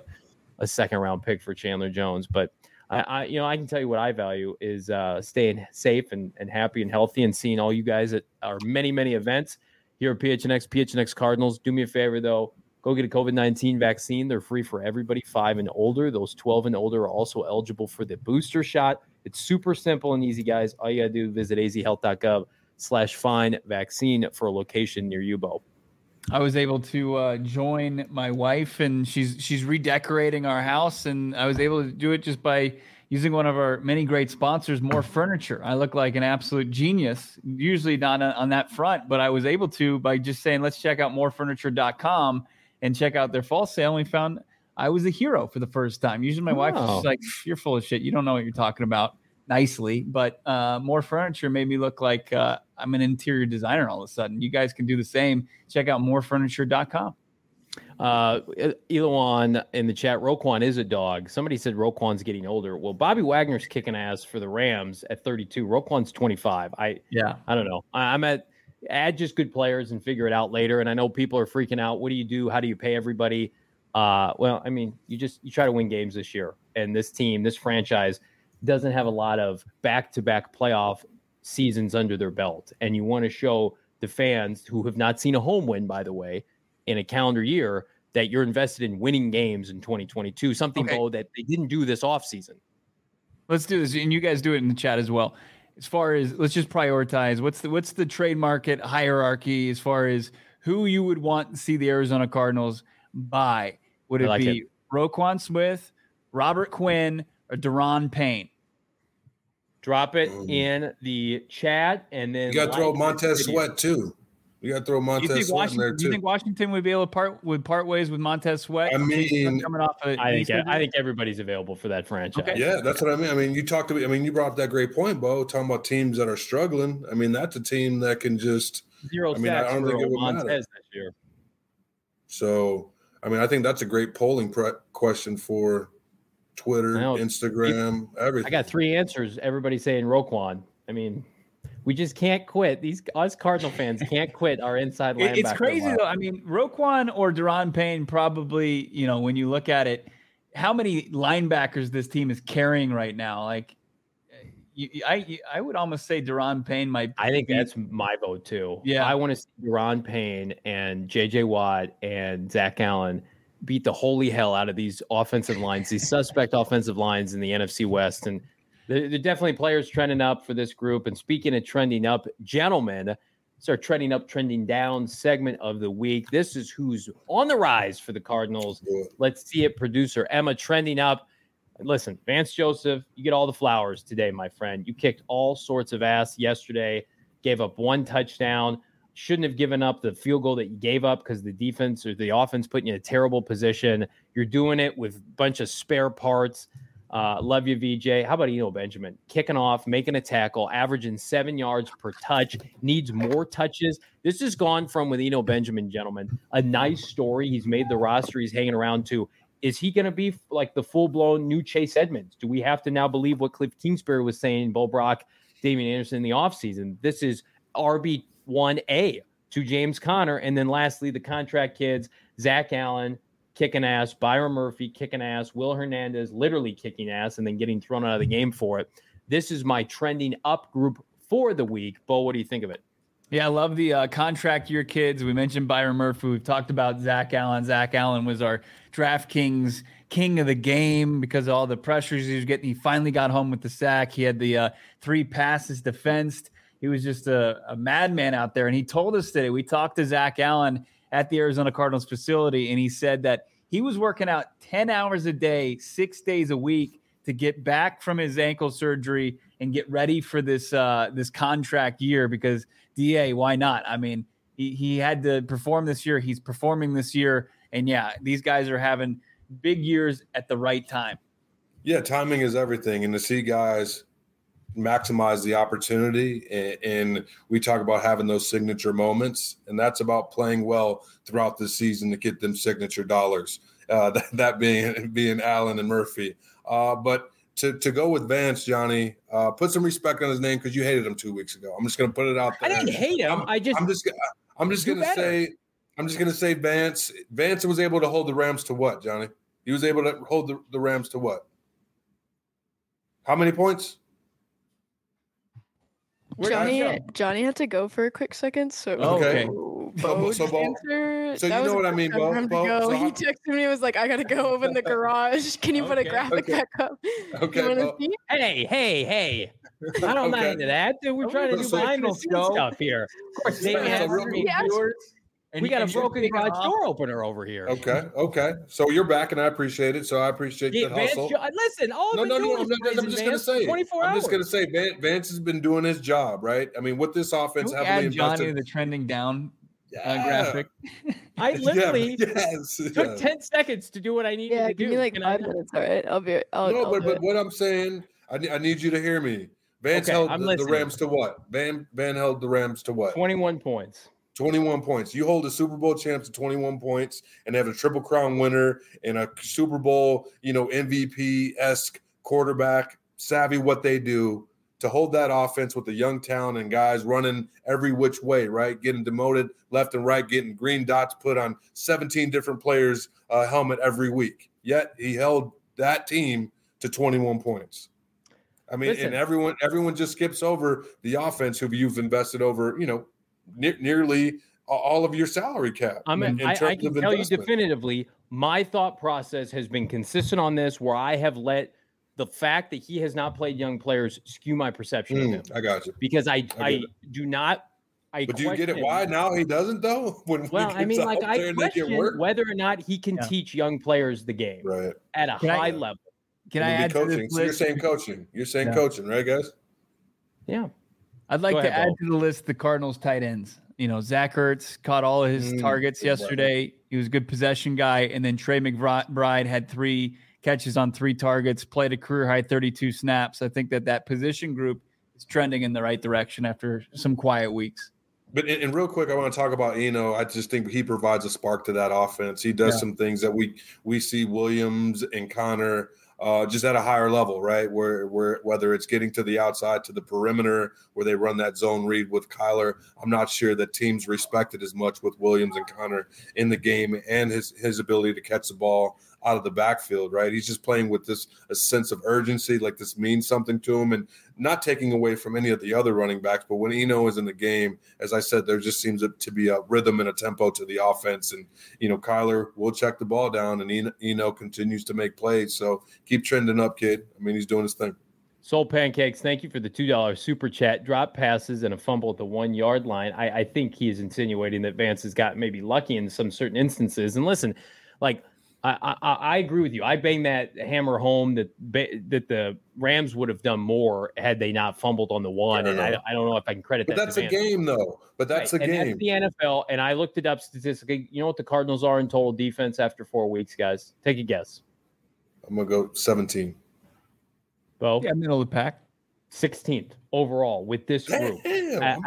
a second-round pick for Chandler Jones? But I can tell you what I value is staying safe and happy and healthy, and seeing all you guys at our many, many events here at PHNX Cardinals. Do me a favor, though. Go get a COVID-19 vaccine. They're free for everybody 5 and older. Those 12 and older are also eligible for the booster shot. It's super simple and easy, guys. All you got to do is visit azhealth.gov/find vaccine for a location near you, Bo. I was able to join my wife, and she's redecorating our house, and I was able to do it just by using one of our many great sponsors, More Furniture. I look like an absolute genius, usually not on that front, but I was able to by just saying, let's check out morefurniture.com and check out their fall sale. And we found I was a hero for the first time. Usually my wife was just like, you're full of shit. You don't know what you're talking about, nicely. But More Furniture made me look like I'm an interior designer all of a sudden. You guys can do the same. Check out morefurniture.com. Elon in the chat, Roquan is a dog. Somebody said Roquan's getting older. Well, Bobby Wagner's kicking ass for the Rams at 32. Roquan's 25. I don't know. I'm add just good players and figure it out later. And I know people are freaking out. What do you do? How do you pay everybody? Well, I mean, you try to win games this year. And this team, this franchise doesn't have a lot of back-to-back playoff seasons under their belt. And you want to show the fans who have not seen a home win, by the way, in a calendar year, that you're invested in winning games in 2022, something, Bo, that they didn't do this offseason. Let's do this. And you guys do it in the chat as well. As far as, let's just prioritize. What's the trade market hierarchy as far as who you would want to see the Arizona Cardinals buy? Would it be Roquan Smith, Robert Quinn, or Daron Payne? Drop it in the chat, and then you got to throw Montez Sweat too. You got to throw Montez Sweat in there too. Do you think Washington would be able to part ways with Montez Sweat? I mean, coming off I think everybody's available for that franchise. Okay. Yeah, that's what I mean. I mean, you brought up that great point, Bo, talking about teams that are struggling. I mean, that's a team that can just zero sacks. I don't think it would Montez matter this year. So, I mean, I think that's a great polling question for Twitter, Instagram, everything. I got 3 answers. Everybody's saying Roquan. I mean, We just can't quit. Us Cardinal fans can't quit our inside linebacker. It's crazy line. though. I mean, Roquan or Daron Payne probably, when you look at it, how many linebackers this team is carrying right now? Like, I would almost say Daron Payne might. I think that's my vote too. Yeah, I want to see Daron Payne and J.J. Watt and Zach Allen beat the holy hell out of these offensive lines, these suspect offensive lines in the NFC West. And they're definitely players trending up for this group. And speaking of trending up, gentlemen, it's our trending up, trending down segment of the week. This is who's on the rise for the Cardinals. Let's see it, producer Emma, trending up. Listen, Vance Joseph, you get all the flowers today, my friend. You kicked all sorts of ass yesterday, gave up 1 touchdown. Shouldn't have given up the field goal that you gave up because the defense or the offense put you in a terrible position. You're doing it with a bunch of spare parts. Love you, VJ. How about Eno Benjamin? Kicking off, making a tackle, averaging 7 yards per touch, needs more touches. This has gone from, with Eno Benjamin, gentlemen, a nice story. He's made the roster. He's hanging around to, is he going to be like the full-blown new Chase Edmonds? Do we have to now believe what Cliff Kingsbury was saying, Bo Brock, Damian Anderson in the offseason? This is RB1A to James Conner. And then lastly, the contract kids, Zach Allen, kicking ass, Byron Murphy, kicking ass, Will Hernandez, literally kicking ass, and then getting thrown out of the game for it. This is my trending up group for the week. Bo, what do you think of it? Yeah, I love the contract year kids. We mentioned Byron Murphy. We've talked about Zach Allen. Zach Allen was our DraftKings king of the game because of all the pressures he was getting. He finally got home with the sack. He had the 3 passes defensed. He was just a madman out there. And he told us today, we talked to Zach Allen at the Arizona Cardinals facility, and he said that he was working out 10 hours a day, 6 days a week to get back from his ankle surgery and get ready for this contract year because DA, why not? I mean, he had to perform this year. He's performing this year. And yeah, these guys are having big years at the right time. Yeah, timing is everything. And to see guys maximize the opportunity, and we talk about having those signature moments, and that's about playing well throughout the season to get them signature dollars, that being Allen and Murphy. But to go with Vance, Johnny, put some respect on his name because you hated him 2 weeks ago. I'm just going to put it out there. I didn't hate him. I'm just going to say Vance was able to hold the Rams to what, Johnny? He was able to hold the Rams to what? How many points? Johnny had to go for a quick second, so okay. Bo, so you know what I mean, Bo? He texted me and was like, I gotta go open the garage. Can you put a graphic back up? Okay. Hey. I don't mind into that. Dude, we're trying to do behind the scenes stuff here. Of course, David has viewers. We got a broken garage door opener over here. Okay. So you're back, and I appreciate it. So I appreciate the hustle. Listen, I'm just going to say. 24 hours. I'm just going to say Vance has been doing his job, right? I mean, with this offense, heavily invested. Johnny the trending down graphic. I literally took 10 seconds to do what I needed to do. Give me like 5 minutes, all right? But what I'm saying, I need you to hear me. Vance held the Rams to what? Van held the Rams to what? 21 points. 21 points. You hold a Super Bowl champ to 21 points and have a Triple Crown winner and a Super Bowl, MVP-esque quarterback, savvy what they do, to hold that offense with the young talent and guys running every which way, right? Getting demoted left and right, getting green dots put on 17 different players' helmet every week. Yet he held that team to 21 points. I mean, and everyone just skips over the offense who you've invested over, nearly all of your salary cap. I can tell you definitively, my thought process has been consistent on this, where I have let the fact that he has not played young players skew my perception of him. I got you. Because I do not. But do you get it why now he doesn't, though? I question whether or not he can teach young players the game at a high level. Can I add coaching? To this so you're saying coaching. You're saying coaching, right, guys? Yeah. I'd like to add to the list the Cardinals tight ends. Zach Ertz caught all of his targets yesterday. Right. He was a good possession guy. And then Trey McBride had 3 catches on 3 targets, played a career-high 32 snaps. I think that position group is trending in the right direction after some quiet weeks. But and real quick, I want to talk about Eno. I just think he provides a spark to that offense. He does some things that we see Williams and Connor just at a higher level, right? Where whether it's getting to the outside, to the perimeter, where they run that zone read with Kyler, I'm not sure that teams respect it as much with Williams and Connor in the game and his ability to catch the ball out of the backfield, right? He's just playing with a sense of urgency, like this means something to him, and not taking away from any of the other running backs. But when Eno is in the game, as I said, there just seems to be a rhythm and a tempo to the offense. And, Kyler will check the ball down, and Eno continues to make plays. So keep trending up, kid. I mean, he's doing his thing. Soul Pancakes, thank you for the $2 super chat. Drop passes and a fumble at the 1 yard line. I think he is insinuating that Vance has got maybe lucky in some certain instances. And listen, like, I agree with you. I bang that hammer home that the Rams would have done more had they not fumbled on the one. And I don't know if I can credit that. But that's a game, though. But that's a game. That's the NFL. And I looked it up statistically. You know what the Cardinals are in total defense after 4 weeks, guys? Take a guess. I'm going to go 17. Bo? Yeah, middle of the pack. 16th overall with this group. Damn,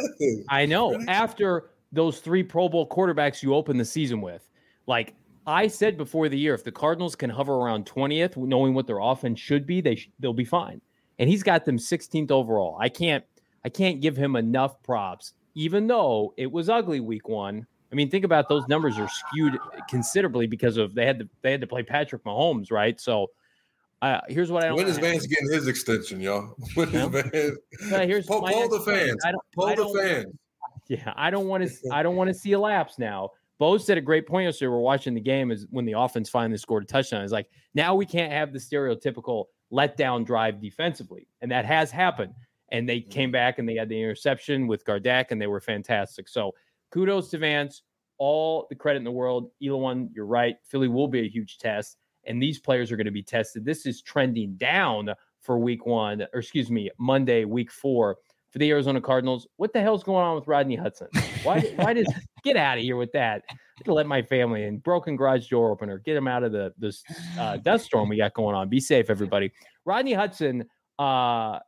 After those 3 Pro Bowl quarterbacks you opened the season with, like, I said before the year, if the Cardinals can hover around 20th, knowing what their offense should be, they'll be fine. And he's got them 16th overall. I can't give him enough props, even though it was ugly week 1. I mean, think about those numbers are skewed considerably because of they had to play Patrick Mahomes, right? So here's what I don't. When is Vance getting his extension, y'all? When is Vance? Poll the fans. Poll the fans. Yeah, I don't want to see a lapse now. Bo said a great point yesterday. We're watching the game is when the offense finally scored a touchdown. It's like, now we can't have the stereotypical letdown drive defensively. And that has happened. And they came back and they had the interception with Gardeck and they were fantastic. So kudos to Vance, all the credit in the world. Elon, you're right. Philly will be a huge test. And these players are going to be tested. This is trending down for Monday, week 4. For the Arizona Cardinals, what the hell's going on with Rodney Hudson? Why does get out of here with that? I have to let my family in. Broken garage door opener. Get him out of this dust storm we got going on. Be safe, everybody. Rodney Hudson, the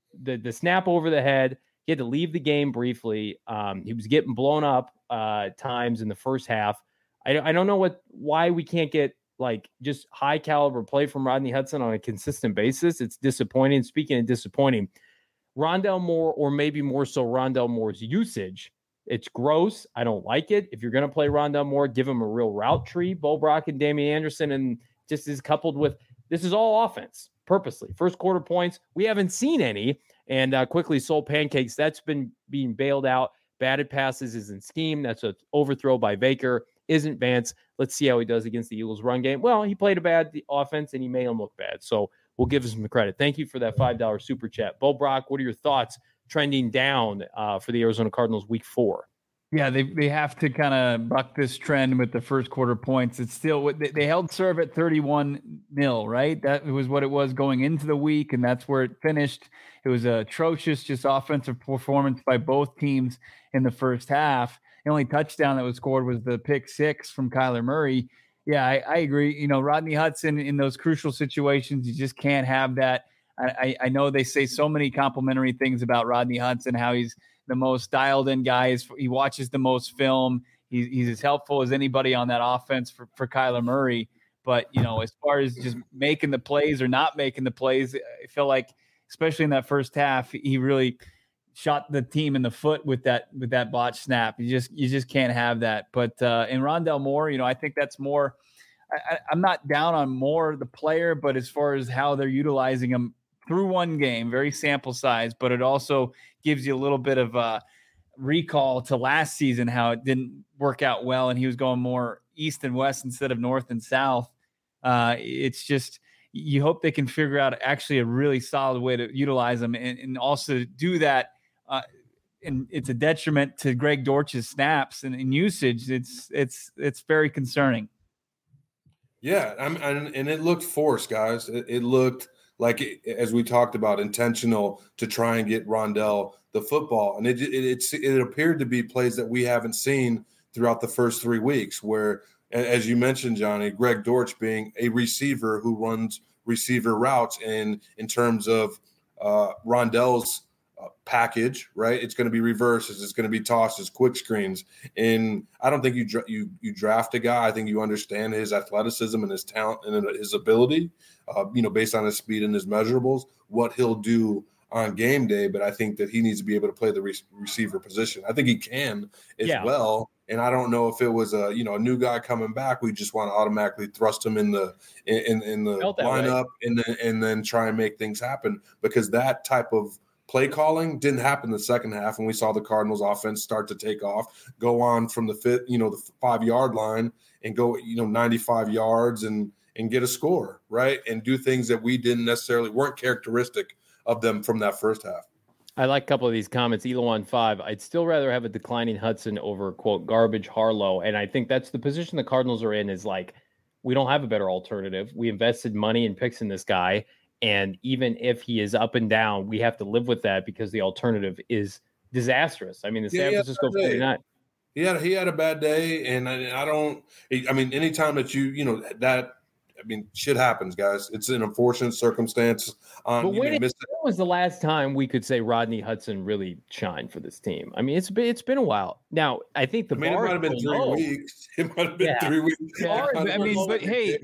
snap over the head. He had to leave the game briefly. He was getting blown up times in the first half. I don't know why we can't get like just high caliber play from Rodney Hudson on a consistent basis. It's disappointing. Speaking of disappointing, Rondale Moore, or maybe more so Rondale Moore's usage, it's gross. I don't like it. If you're going to play Rondale Moore, give him a real route tree. Bo Brock and Damian Anderson, and just is coupled with this is all offense purposely. First quarter points, we haven't seen any. And quickly, Soul Pancakes, that's been being bailed out. Batted passes isn't scheme. That's an overthrow by Baker. Isn't Vance. Let's see how he does against the Eagles run game. Well, he played a bad offense and he made him look bad. So we'll give him the credit. Thank you for that $5 super chat. Bo Brock, what are your thoughts trending down for the Arizona Cardinals week 4? Yeah, they have to kind of buck this trend with the first quarter points. It's still they held serve at 31-0, right? That was what it was going into the week, and that's where it finished. It was a atrocious, just offensive performance by both teams in the first half. The only touchdown that was scored was the pick 6 from Kyler Murray. Yeah, I agree. Rodney Hudson in those crucial situations, you just can't have that. I know they say so many complimentary things about Rodney Hudson, how he's the most dialed in guy. He watches the most film. He's as helpful as anybody on that offense for Kyler Murray. But, as far as just making the plays or not making the plays, I feel like, especially in that first half, he really shot the team in the foot with that botch snap. You just can't have that. But in Rondale Moore, I think that's more. I'm not down on Moore, the player, but as far as how they're utilizing him through one game, very sample size, but it also gives you a little bit of a recall to last season, how it didn't work out well, and he was going more east and west instead of north and south. It's just you hope they can figure out actually a really solid way to utilize them and also do that. And it's a detriment to Greg Dortch's snaps and usage. It's very concerning. Yeah, and it looked forced, guys. It looked like, as we talked about, intentional to try and get Rondale the football. And it appeared to be plays that we haven't seen throughout the first 3 weeks where, as you mentioned, Johnny, Greg Dortch being a receiver who runs receiver routes, and in terms of Rondale's package, right? It's going to be reverses, it's going to be tosses, quick screens. And I don't think you draft a guy. I think you understand his athleticism and his talent and his ability, based on his speed and his measurables, what he'll do on game day. But I think that he needs to be able to play the receiver position. I think he can as well. And I don't know if it was a new guy coming back, we just want to automatically thrust him in the lineup and then try and make things happen, because that type of play calling didn't happen in the second half, and we saw the Cardinals offense start to take off, go on from the 5-yard line and go 95 yards and get a score, right, and do things that we weren't characteristic of them from that first half. I like a couple of these comments. Elon 5, I'd still rather have a declining Hudson over, quote, garbage Harlow. And I think that's the position the Cardinals are in, is like, we don't have a better alternative. We invested money in picks in this guy. And even if he is up and down, we have to live with that because the alternative is disastrous. I mean, the San Francisco 49. He had a bad day. And anytime that shit happens, guys. It's an unfortunate circumstance. But when was the last time we could say Rodney Hudson really shined for this team? I mean, it's been a while. Now, I think it might have been 3 weeks. It might have been 3 weeks. Yeah. But hey,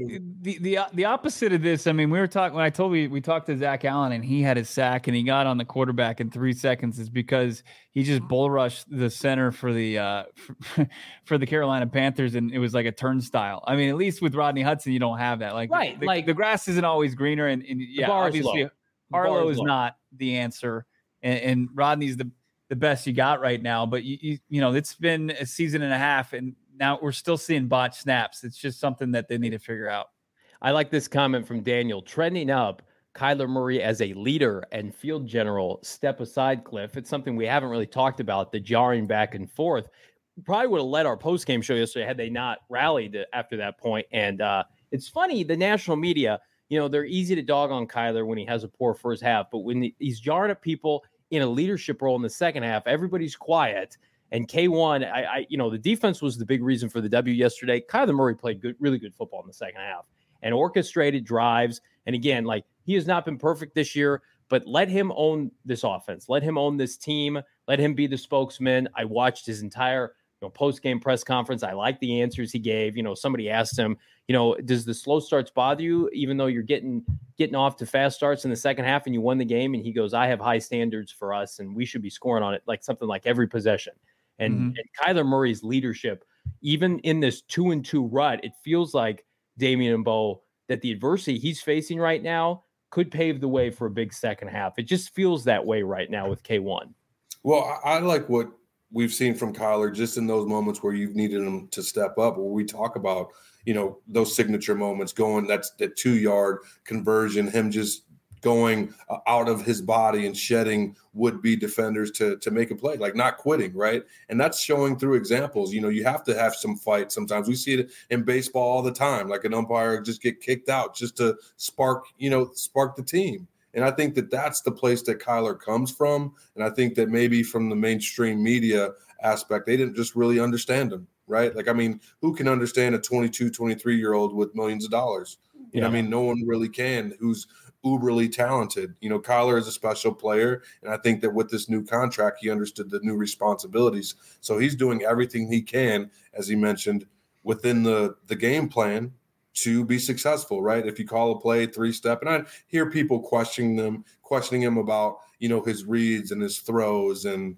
the opposite of this. I mean, we were talking when we talked to Zach Allen and he had his sack and he got on the quarterback in 3 seconds, is because he just bull rushed the center for the for the Carolina Panthers, and it was like a turnstile. I mean, at least with Rodney Hudson, you don't have that. The grass isn't always greener, and obviously Harlow is not the answer, and Rodney's the best you got right now. But you it's been a season and a half, and now we're still seeing botched snaps. It's just something that they need to figure out. I like this comment from Daniel. Trending up Kyler Murray as a leader and field general. Step aside, Cliff. It's something we haven't really talked about, the jarring back and forth. Probably would have led our post-game show yesterday had they not rallied after that point. And it's funny, the national media, they're easy to dog on Kyler when he has a poor first half, but when he's jarring at people in a leadership role in the second half, everybody's quiet. And K1, the defense was the big reason for the W yesterday. Kyler Murray played really good football in the second half and orchestrated drives. And again, he has not been perfect this year, but let him own this offense. Let him own this team. Let him be the spokesman. I watched his entire post-game press conference. I like the answers he gave. Somebody asked him, does the slow starts bother you, even though you're getting off to fast starts in the second half and you won the game? And he goes, I have high standards for us, and we should be scoring on it, something like every possession. And Kyler Murray's leadership, even in this 2-2 rut, it feels like, Damian and Bo, that the adversity he's facing right now could pave the way for a big second half. It just feels that way right now with K1. Well, I like what we've seen from Kyler just in those moments where you've needed him to step up, where we talk about, those signature moments that's the 2-yard conversion, him just going out of his body and shedding would-be defenders to make a play, not quitting, right? And that's showing through examples. You have to have some fight sometimes. We see it in baseball all the time, an umpire just get kicked out just to spark the team. And I think that that's the place that Kyler comes from. And I think that maybe from the mainstream media aspect, they didn't just really understand him, right? Who can understand a 22, 23-year-old with millions of dollars? No one really can who's uberly talented. Kyler is a special player. And I think that with this new contract, he understood the new responsibilities. So he's doing everything he can, as he mentioned, within the game plan to be successful, right? If you call a play 3-step, and I hear people questioning him about, his reads and his throws. And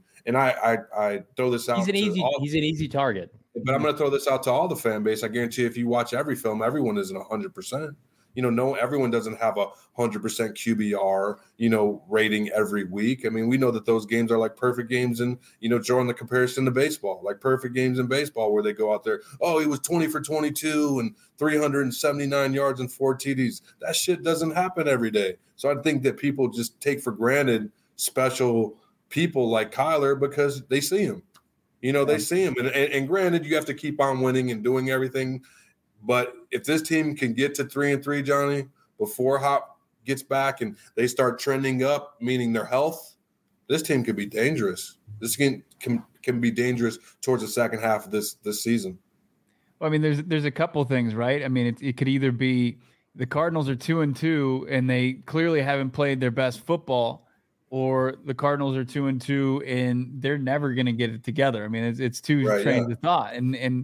I throw this out. He's an easy target. But I'm going to throw this out to all the fan base. I guarantee if you watch every film, everyone isn't 100%. Everyone doesn't have 100% QBR, rating every week. We know that those games are like perfect games and, drawing the comparison to baseball, like perfect games in baseball where they go out there, oh, he was 20 for 22 and 379 yards and 4 TDs. That shit doesn't happen every day. So I think that people just take for granted special people like Kyler because they see him. They see him. And granted, you have to keep on winning and doing everything. But if this team can get to 3-3, Johnny, before Hop gets back and they start trending up, meaning their health, this team could be dangerous. This can be dangerous towards the second half of this season. Well, there's a couple things, right? It could either be the Cardinals are 2-2 and they clearly haven't played their best football, or the Cardinals are 2-2 and they're never going to get it together. I mean, it's two trains of thought. And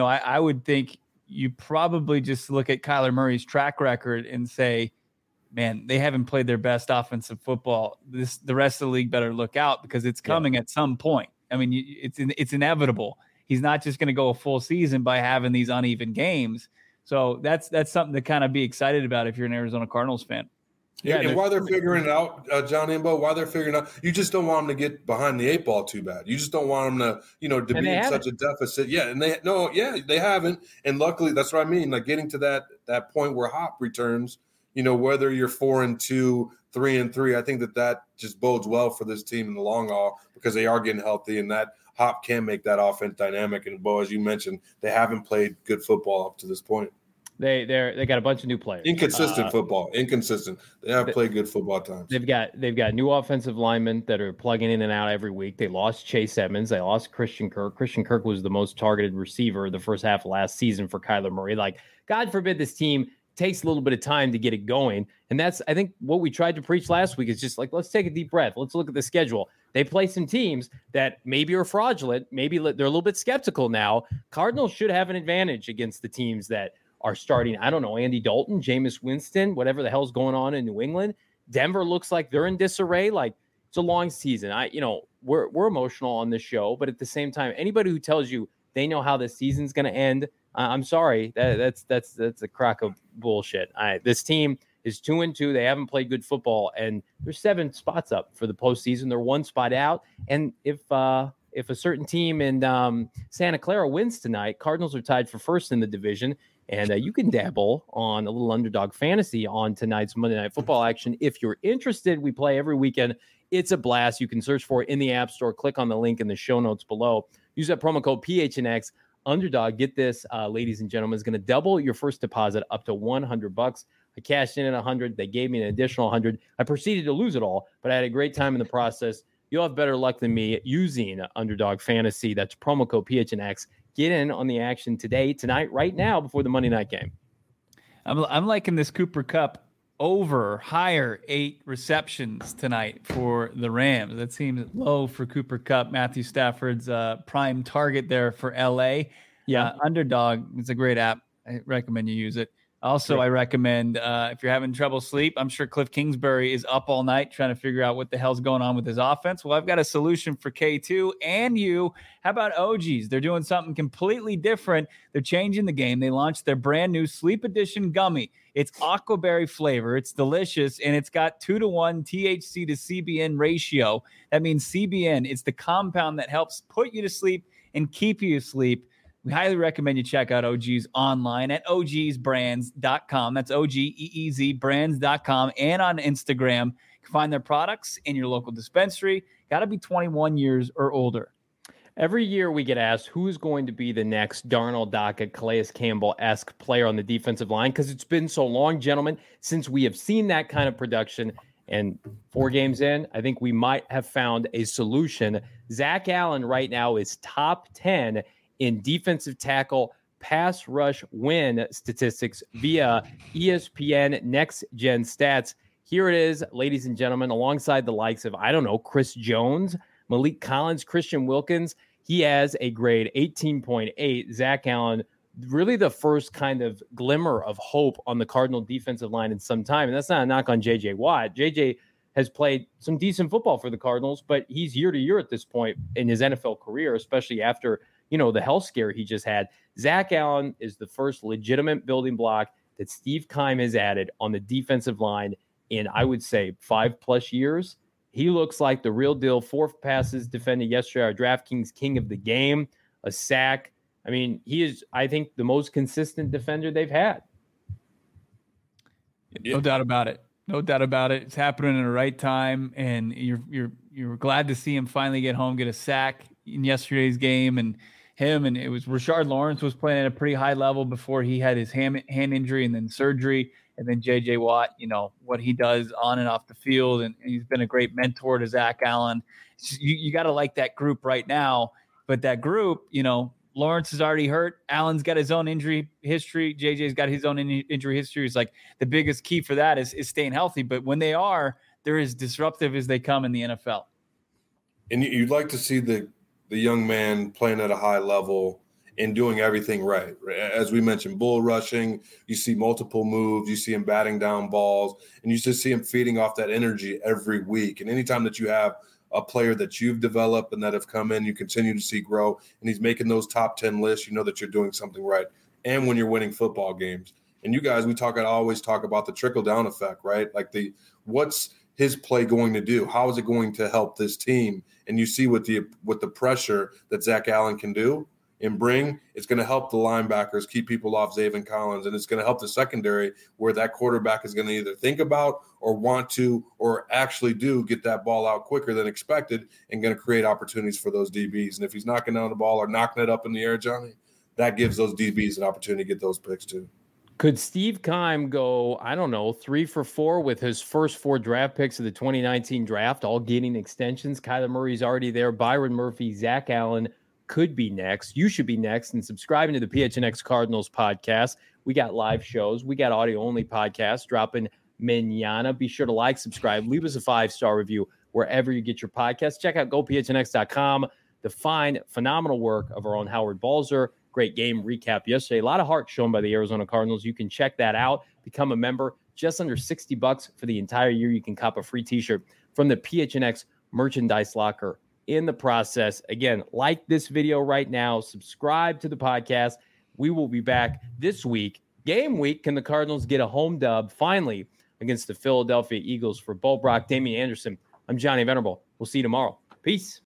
I would think you probably just look at Kyler Murray's track record and say, man, they haven't played their best offensive football. The rest of the league better look out because it's coming at some point. I mean, it's inevitable. He's not just going to go a full season by having these uneven games. So that's something to kind of be excited about if you're an Arizona Cardinals fan. Yeah, and while they're figuring it out, John Imbo, while they're figuring it out, you just don't want them to get behind the eight ball too bad. You just don't want them to, to be in such a deficit. Yeah, and they haven't. And luckily, that's what I mean. Like getting to that point where Hop returns, whether you're 4-2, 3-3, I think that just bodes well for this team in the long haul because they are getting healthy and that Hop can make that offense dynamic. And Bo, as you mentioned, they haven't played good football up to this point. They got a bunch of new players. Inconsistent football. Inconsistent. They have played good football at times. They've got new offensive linemen that are plugging in and out every week. They lost Chase Edmonds. They lost Christian Kirk. Christian Kirk was the most targeted receiver the first half of last season for Kyler Murray. Like, God forbid this team takes a little bit of time to get it going. And that's, I think, what we tried to preach last week is just like, let's take a deep breath. Let's look at the schedule. They play some teams that maybe are fraudulent. Maybe they're a little bit skeptical now. Cardinals should have an advantage against the teams that are starting, I don't know, Andy Dalton, Jameis Winston, whatever the hell's going on in New England. Denver looks like they're in disarray. Like, it's a long season. We're emotional on this show, but at the same time, anybody who tells you they know how the season's going to end, I'm sorry, that's a crock of bullshit. This team is 2-2. They haven't played good football, and they're 7 spots up for the postseason. They're 1 spot out, and if a certain team in Santa Clara wins tonight, Cardinals are tied for first in the division. And you can dabble on a little underdog fantasy on tonight's Monday Night Football action. If you're interested, we play every weekend. It's a blast. You can search for it in the App Store. Click on the link in the show notes below. Use that promo code PHNX. Underdog, get this, ladies and gentlemen, is going to double your first deposit up to $100. I cashed in at 100. They gave me an additional 100. I proceeded to lose it all, but I had a great time in the process. You'll have better luck than me using Underdog Fantasy. That's promo code PHNX. Get in on the action today, tonight, right now, before the Monday night game. I'm liking this Cooper Kupp over higher 8 receptions tonight for the Rams. That seems low for Cooper Kupp. Matthew Stafford's prime target there for LA. Yeah, Underdog is a great app. I recommend you use it. Also, sure. I recommend if you're having trouble sleep, I'm sure Cliff Kingsbury is up all night trying to figure out what the hell's going on with his offense. Well, I've got a solution for K2 and you. How about OGs? They're doing something completely different. They're changing the game. They launched their brand new Sleep Edition gummy. It's aquaberry flavor. It's delicious, and it's got 2-to-1 THC to CBN ratio. That means CBN is the compound that helps put you to sleep and keep you asleep. We highly recommend you check out OGs online at ogsbrands.com. That's OGEEZ brands.com and on Instagram. You can find their products in your local dispensary. Got to be 21 years or older. Every year we get asked who's going to be the next Darnold, Dockett, Calais Campbell-esque player on the defensive line because it's been so long, gentlemen, since we have seen that kind of production. And 4 games in, I think we might have found a solution. Zach Allen right now is top 10 in defensive tackle pass rush win statistics via ESPN Next Gen Stats. Here it is, ladies and gentlemen, alongside the likes of, Chris Jones, Malik Collins, Christian Wilkins. He has a grade 18.8. Zach Allen, really the first kind of glimmer of hope on the Cardinal defensive line in some time. And that's not a knock on J.J. Watt. J.J. has played some decent football for the Cardinals, but he's year to year at this point in his NFL career, especially after the health scare he just had. Zach Allen is the first legitimate building block that Steve Keim has added on the defensive line in, I would say, 5+ years. He looks like the real deal. 4 passes defended yesterday, our DraftKings king of the game, a sack. I mean, he is, I think, the most consistent defender they've had. No doubt about it. No doubt about it. It's happening in the right time, and you're glad to see him finally get home, get a sack in yesterday's game, and it was Rashard Lawrence was playing at a pretty high level before he had his hand injury and then surgery, and then J.J. Watt, what he does on and off the field, and he's been a great mentor to Zach Allen. You got to like that group right now, but that group, Lawrence is already hurt. Allen's got his own injury history. JJ's got his own injury history. It's like the biggest key for that is staying healthy. But when they are, they're as disruptive as they come in the NFL. And you'd like to see the young man playing at a high level and doing everything right. As we mentioned, bull rushing, you see multiple moves, you see him batting down balls, and you just see him feeding off that energy every week. And anytime that you have a player that you've developed and that have come in, you continue to see grow, and he's making those top 10 lists, you know that you're doing something right. And when you're winning football games. And you guys, I always talk about the trickle-down effect, right? Like what's his play going to do? How is it going to help this team? And you see with the pressure that Zach Allen can do and bring, it's going to help the linebackers keep people off Zaven Collins, and it's going to help the secondary where that quarterback is going to either think about or want to or actually do get that ball out quicker than expected and going to create opportunities for those DBs. And if he's knocking down the ball or knocking it up in the air, Johnny, that gives those DBs an opportunity to get those picks too. Could Steve Keim go, 3 for 4 with his first 4 draft picks of the 2019 draft, all getting extensions? Kyler Murray's already there. Byron Murphy, Zach Allen could be next. You should be next. And subscribing to the PHNX Cardinals podcast. We got live shows. We got audio-only podcasts dropping mañana. Be sure to like, subscribe, leave us a 5-star review wherever you get your podcasts. Check out gophnx.com to find phenomenal work of our own Howard Balzer. Great game recap yesterday. A lot of heart shown by the Arizona Cardinals. You can check that out. Become a member. Just under $60 for the entire year. You can cop a free t-shirt from the PHNX merchandise locker in the process. Again, like this video right now. Subscribe to the podcast. We will be back this week. Game week. Can the Cardinals get a home dub finally against the Philadelphia Eagles? For Bo Brock, Damian Anderson, I'm Johnny Venerable. We'll see you tomorrow. Peace.